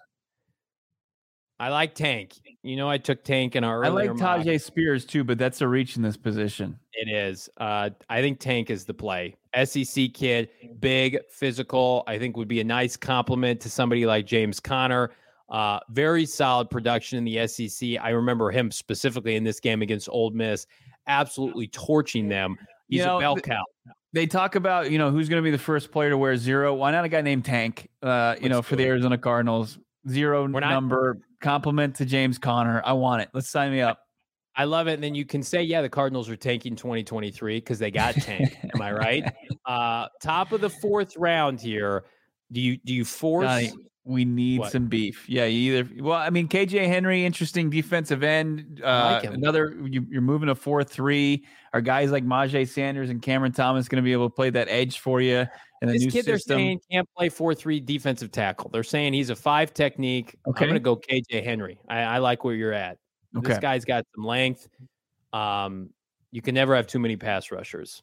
I like Tank. I took Tank in our earlier. I like Tajay Spears too, but that's a reach in this position. It is. I think Tank is the play. SEC kid, big, physical. I think would be a nice compliment to somebody like James Conner. Very solid production in the SEC. I remember him specifically in this game against Ole Miss, absolutely torching them. He's a bell cow. They talk about, who's going to be the first player to wear 0. Why not a guy named Tank, for the Arizona Cardinals? 0 number, compliment to James Conner. I want it. Let's sign me up. I love it. And then you can say, the Cardinals are tanking 2023 because they got Tank. Am I right? Top of the 4th round here. Do you force? Johnny, we need some beef. Yeah, KJ Henry, interesting defensive end. I like him. You're moving to 4-3. Are guys like Majay Sanders and Cameron Thomas going to be able to play that edge for you? And this kid they're saying can't play 4-3 defensive tackle. They're saying he's a 5 technique. Okay. I'm going to go KJ Henry. I like where you're at. Okay. This guy's got some length. You can never have too many pass rushers.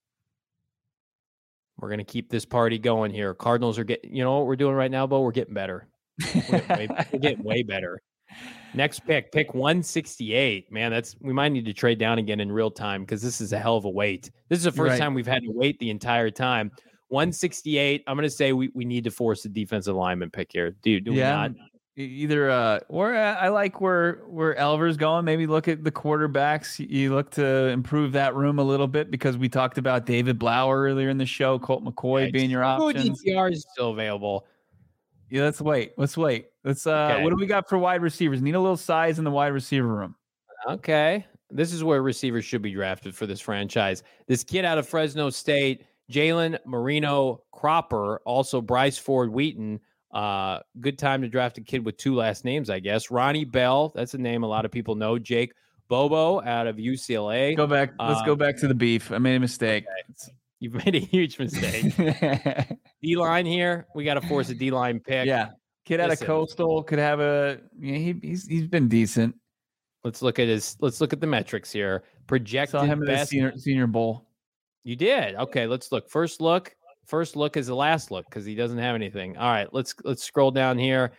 We're going to keep this party going here. Cardinals are getting, you know what we're doing right now, Bo? We're getting better. We're getting way better. Next pick 168. Man, we might need to trade down again in real time because this is a hell of a wait. This is the first time we've had to wait the entire time. 168. I'm going to say we need to force a defensive lineman pick here. Do we not? Either or I like where Elver's going. Maybe look at the quarterbacks. You look to improve that room a little bit because we talked about David Blower earlier in the show. Colt McCoy being your option. DTR is still available. Yeah, let's wait. Let's what do we got for wide receivers? Need a little size in the wide receiver room. Okay. This is where receivers should be drafted for this franchise. This kid out of Fresno State, Jalen Marino Cropper, also Bryce Ford Wheaton. Good time to draft a kid with 2 last names, I guess. Ronnie Bell, that's a name a lot of people know. Jake Bobo out of UCLA. Let's go back to the beef. I made a mistake. Okay. You've made a huge mistake. D-line here. We got to force a D-line pick. Yeah. Kid out of Listen. Coastal could have he's been decent. Let's look at the metrics here. Projected Saw him in the best. senior bowl. You did. Okay, let's look. First look is the last look because he doesn't have anything. All right, let's scroll down here.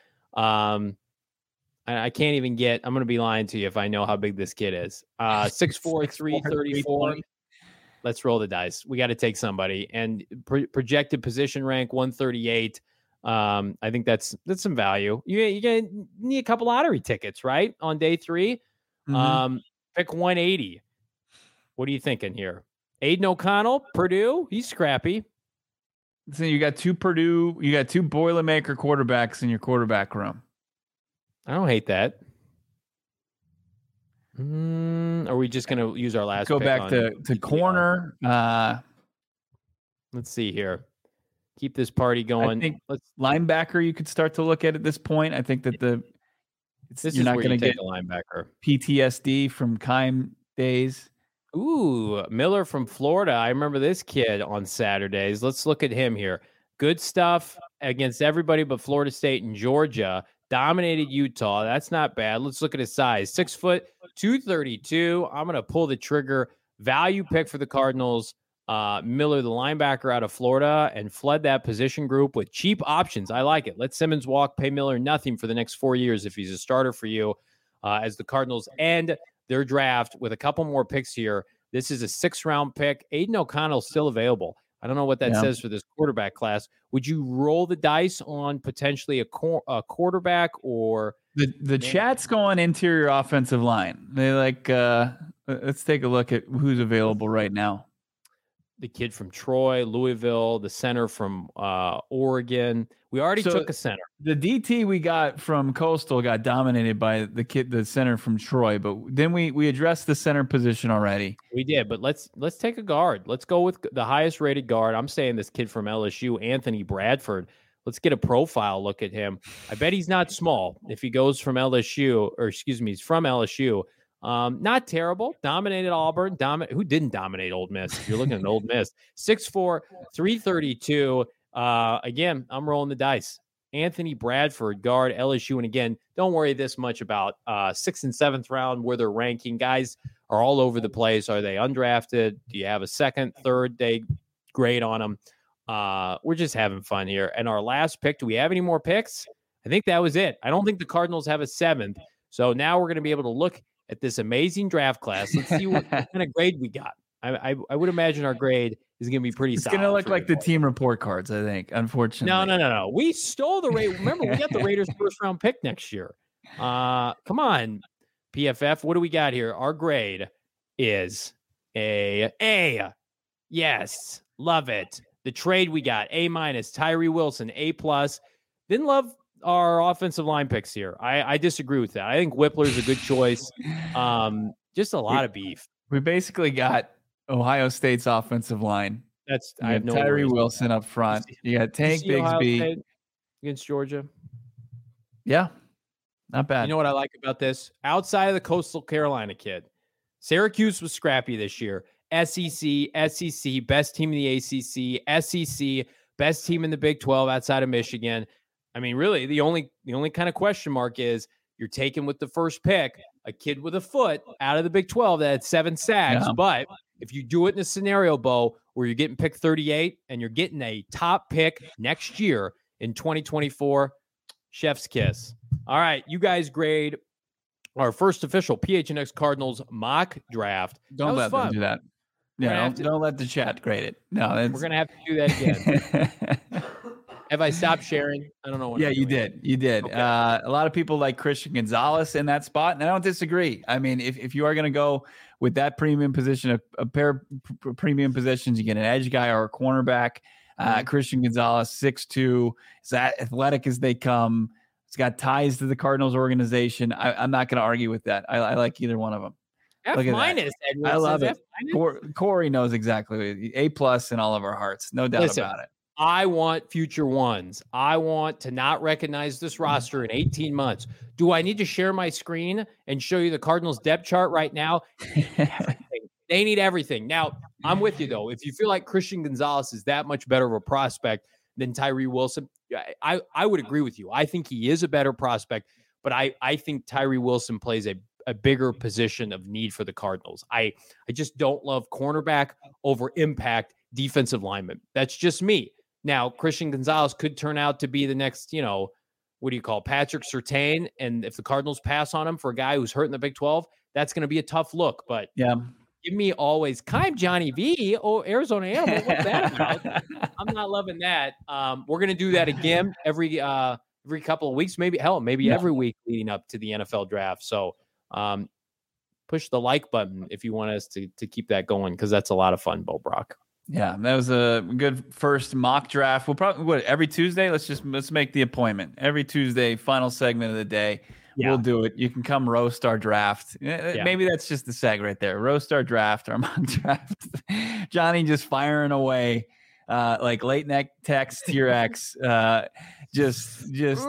I can't even get. I'm going to be lying to you if I know how big this kid is. 6'4", 334. Let's roll the dice. We got to take somebody. And projected position rank 138. I think that's some value. You're gonna need a couple lottery tickets, right? On day 3. Mm-hmm. Pick 180. What are you thinking here? Aiden O'Connell, Purdue. He's scrappy. So you got two Boilermaker quarterbacks in your quarterback room. I don't hate that. Are we just going to use our last Go pick back to corner? Let's see here. Keep this party going. I think linebacker you could start to look at this point. I think that you're not going to get a linebacker. PTSD from Keim days. Ooh, Miller from Florida. I remember this kid on Saturdays. Let's look at him here. Good stuff against everybody but Florida State and Georgia. Dominated Utah. That's not bad. Let's look at his size. 6 foot, 232. I'm going to pull the trigger. Value pick for the Cardinals. Miller, the linebacker out of Florida, and flood that position group with cheap options. I like it. Let Simmons walk. Pay Miller nothing for the next 4 years if he's a starter for you. As the Cardinals end their draft with a couple more picks here. This is a 6th-round pick. Aiden O'Connell still available. I don't know what that says for this quarterback class. Would you roll the dice on potentially a quarterback or the chat's going interior offensive line? They let's take a look at who's available right now. The kid from Troy, Louisville, the center from Oregon. We already took a center. The DT we got from Coastal got dominated by the center from Troy, but then we addressed the center position already. We did, but let's take a guard. Let's go with the highest rated guard. I'm saying this kid from LSU, Anthony Bradford. Let's get a profile look at him. I bet he's not small if he goes from LSU, he's from LSU. Not terrible. Dominated Auburn. Who didn't dominate Ole Miss? If you're looking at Ole Miss, 6'4", 332. Again, I'm rolling the dice. Anthony Bradford, guard, LSU. And again, don't worry this much about 6th and 7th round where they're ranking. Guys are all over the place. Are they undrafted? Do you have a 2nd, 3rd day grade on them? We're just having fun here. And our last pick, do we have any more picks? I think that was it. I don't think the Cardinals have a 7th. So now we're going to be able to look at this amazing draft class. Let's see what kind of grade we got. I would imagine our grade is going to be pretty solid. It's going to look like the team report cards, I think, unfortunately. No. We stole the Raiders. Remember, we got the Raiders' 1st-round pick next year. Come on, PFF. What do we got here? Our grade is a A. Yes, love it. The trade we got, A-, Tyree Wilson, A+. Didn't love our offensive line picks here. I disagree with that. I think Whippler's a good choice. Just a lot of beef. We basically got Ohio State's offensive line. I have no Tyree worries. Wilson up front. You got Tank Bigsby against Georgia. Yeah, not bad. You know what I like about this? Outside of the Coastal Carolina kid, Syracuse was scrappy this year. SEC, best team in the ACC, SEC, best team in the Big 12 outside of Michigan. I mean, really, the only kind of question mark is you're taking with the first pick a kid with a foot out of the Big 12 that had 7 sacks. Yeah. But if you do it in a scenario, Bo, where you're getting pick 38 and you're getting a top pick next year in 2024, chef's kiss. All right, you guys grade our first official PHNX Cardinals mock draft. Don't let them do that. Yeah, don't let the chat grade it. No, we're going to have to do that again. Have I stopped sharing? I don't know. What you did. You did. Okay. A lot of people like Christian Gonzalez in that spot, and I don't disagree. I mean, if you are going to go with that premium position, a pair of premium positions, you get an edge guy or a cornerback. Christian Gonzalez, 6'2", is as athletic as they come. He's got ties to the Cardinals organization. I'm not going to argue with that. I like either one of them. F-, Edwards, I love it. Corey knows exactly. A+ in all of our hearts. No doubt about it. I want future ones. I want to not recognize this roster in 18 months. Do I need to share my screen and show you the Cardinals depth chart right now? They need everything. Now, I'm with you, though. If you feel like Christian Gonzalez is that much better of a prospect than Tyree Wilson. I would agree with you. I think he is a better prospect, but I think Tyree Wilson plays a bigger position of need for the Cardinals. I just don't love cornerback over impact defensive lineman. That's just me. Now, Christian Gonzalez could turn out to be the next, what do you call Patrick Surtain? And if the Cardinals pass on him for a guy who's hurt in the Big 12, that's going to be a tough look. But yeah, give me always Kime Johnny V. Oh, Arizona Animal. What's that about? I'm not loving that. We're going to do that again every couple of weeks, maybe every week leading up to the NFL draft. So push the like button if you want us to keep that going, because that's a lot of fun, Bo Brock. Yeah, that was a good first mock draft. We'll probably every Tuesday. Let's make the appointment every Tuesday. Final segment of the day. Yeah. We'll do it. You can come roast our draft. Yeah. Maybe that's just the seg right there. Roast our draft, our mock draft. Johnny just firing away like late night text to your ex. Just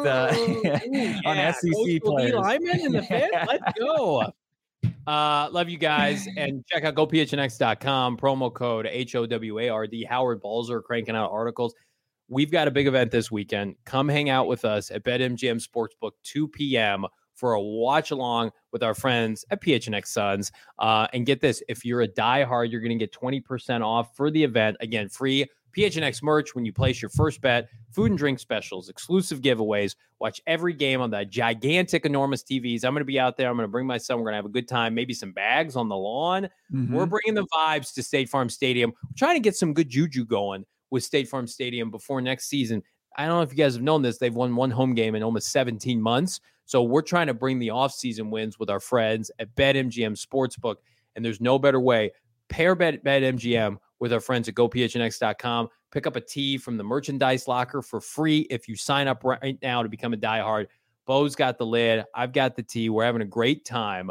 on SEC players. Lyman in the fifth. Let's go. Love you guys, and check out gophnx.com, promo code HOWARD. Howard Balzer cranking out articles. We've got a big event this weekend. Come hang out with us at BetMGM Sportsbook, 2 p.m. for a watch along with our friends at PHNX Suns. And get this, if you're a diehard, you're going to get 20% off for the event. Again, free PHNX merch when you place your first bet, food and drink specials, exclusive giveaways. Watch every game on the gigantic, enormous TVs. I'm going to be out there. I'm going to bring my son. We're going to have a good time. Maybe some bags on the lawn. Mm-hmm. We're bringing the vibes to State Farm Stadium. We're trying to get some good juju going with State Farm Stadium before next season. I don't know if you guys have known this. They've won one home game in almost 17 months. So we're trying to bring the offseason wins with our friends at BetMGM Sportsbook. And there's no better way. Pair BetMGM with our friends at gophnx.com. Pick up a tee from the merchandise locker for free if you sign up right now to become a diehard. Bo's got the lid. I've got the tee. We're having a great time.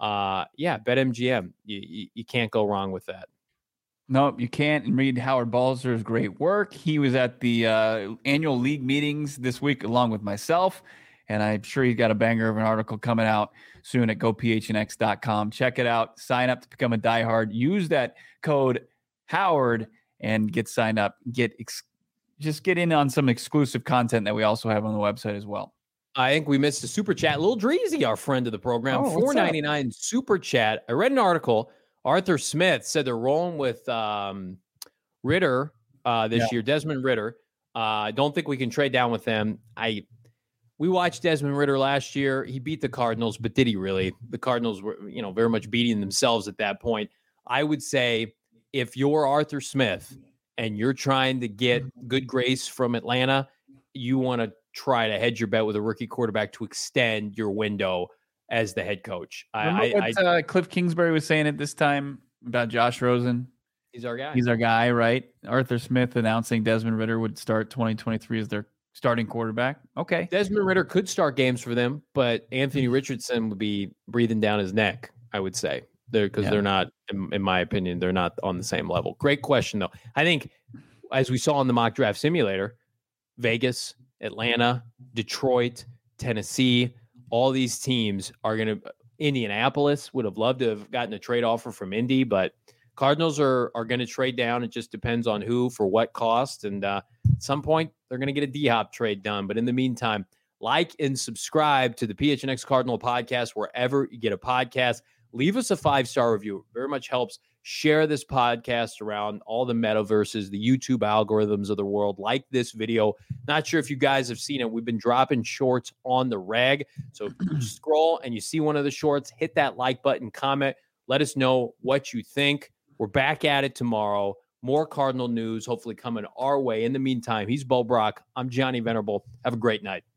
BetMGM. You can't go wrong with that. Nope, you can't. And read Howard Balzer's great work. He was at the annual league meetings this week along with myself, and I'm sure he's got a banger of an article coming out soon at gophnx.com. Check it out. Sign up to become a diehard. Use that code Howard and get signed up. Just get in on some exclusive content that we also have on the website as well. I think we missed a super chat. Lil Dreezy, our friend of the program, $4.99 super chat. I read an article. Arthur Smith said they're rolling with Ritter this year, Desmond Ritter. I don't think we can trade down with them. We watched Desmond Ritter last year. He beat the Cardinals, but did he really? The Cardinals were, very much beating themselves at that point. I would say if you're Arthur Smith and you're trying to get good grace from Atlanta, you want to try to hedge your bet with a rookie quarterback to extend your window as the head coach. Cliff Kingsbury was saying at this time about Josh Rosen. He's our guy. He's our guy, right? Arthur Smith announcing Desmond Ritter would start 2023 as their starting quarterback. Okay. Desmond Ritter could start games for them, but Anthony Richardson would be breathing down his neck, I would say. They're not, in my opinion, they're not on the same level. Great question, though. I think, as we saw in the mock draft simulator, Vegas, Atlanta, Detroit, Tennessee, all these teams are going to – Indianapolis would have loved to have gotten a trade offer from Indy, but Cardinals are going to trade down. It just depends on who for what cost. And at some point, they're going to get a D-Hop trade done. But in the meantime, like and subscribe to the PHNX Cardinal podcast wherever you get a podcast. Leave us a 5-star review. It very much helps. Share this podcast around all the metaverses, the YouTube algorithms of the world. Like this video. Not sure if you guys have seen it. We've been dropping shorts on the reg. So if you scroll and you see one of the shorts, hit that like button, comment. Let us know what you think. We're back at it tomorrow. More Cardinal news hopefully coming our way. In the meantime, he's Bo Brock. I'm Johnny Venerable. Have a great night.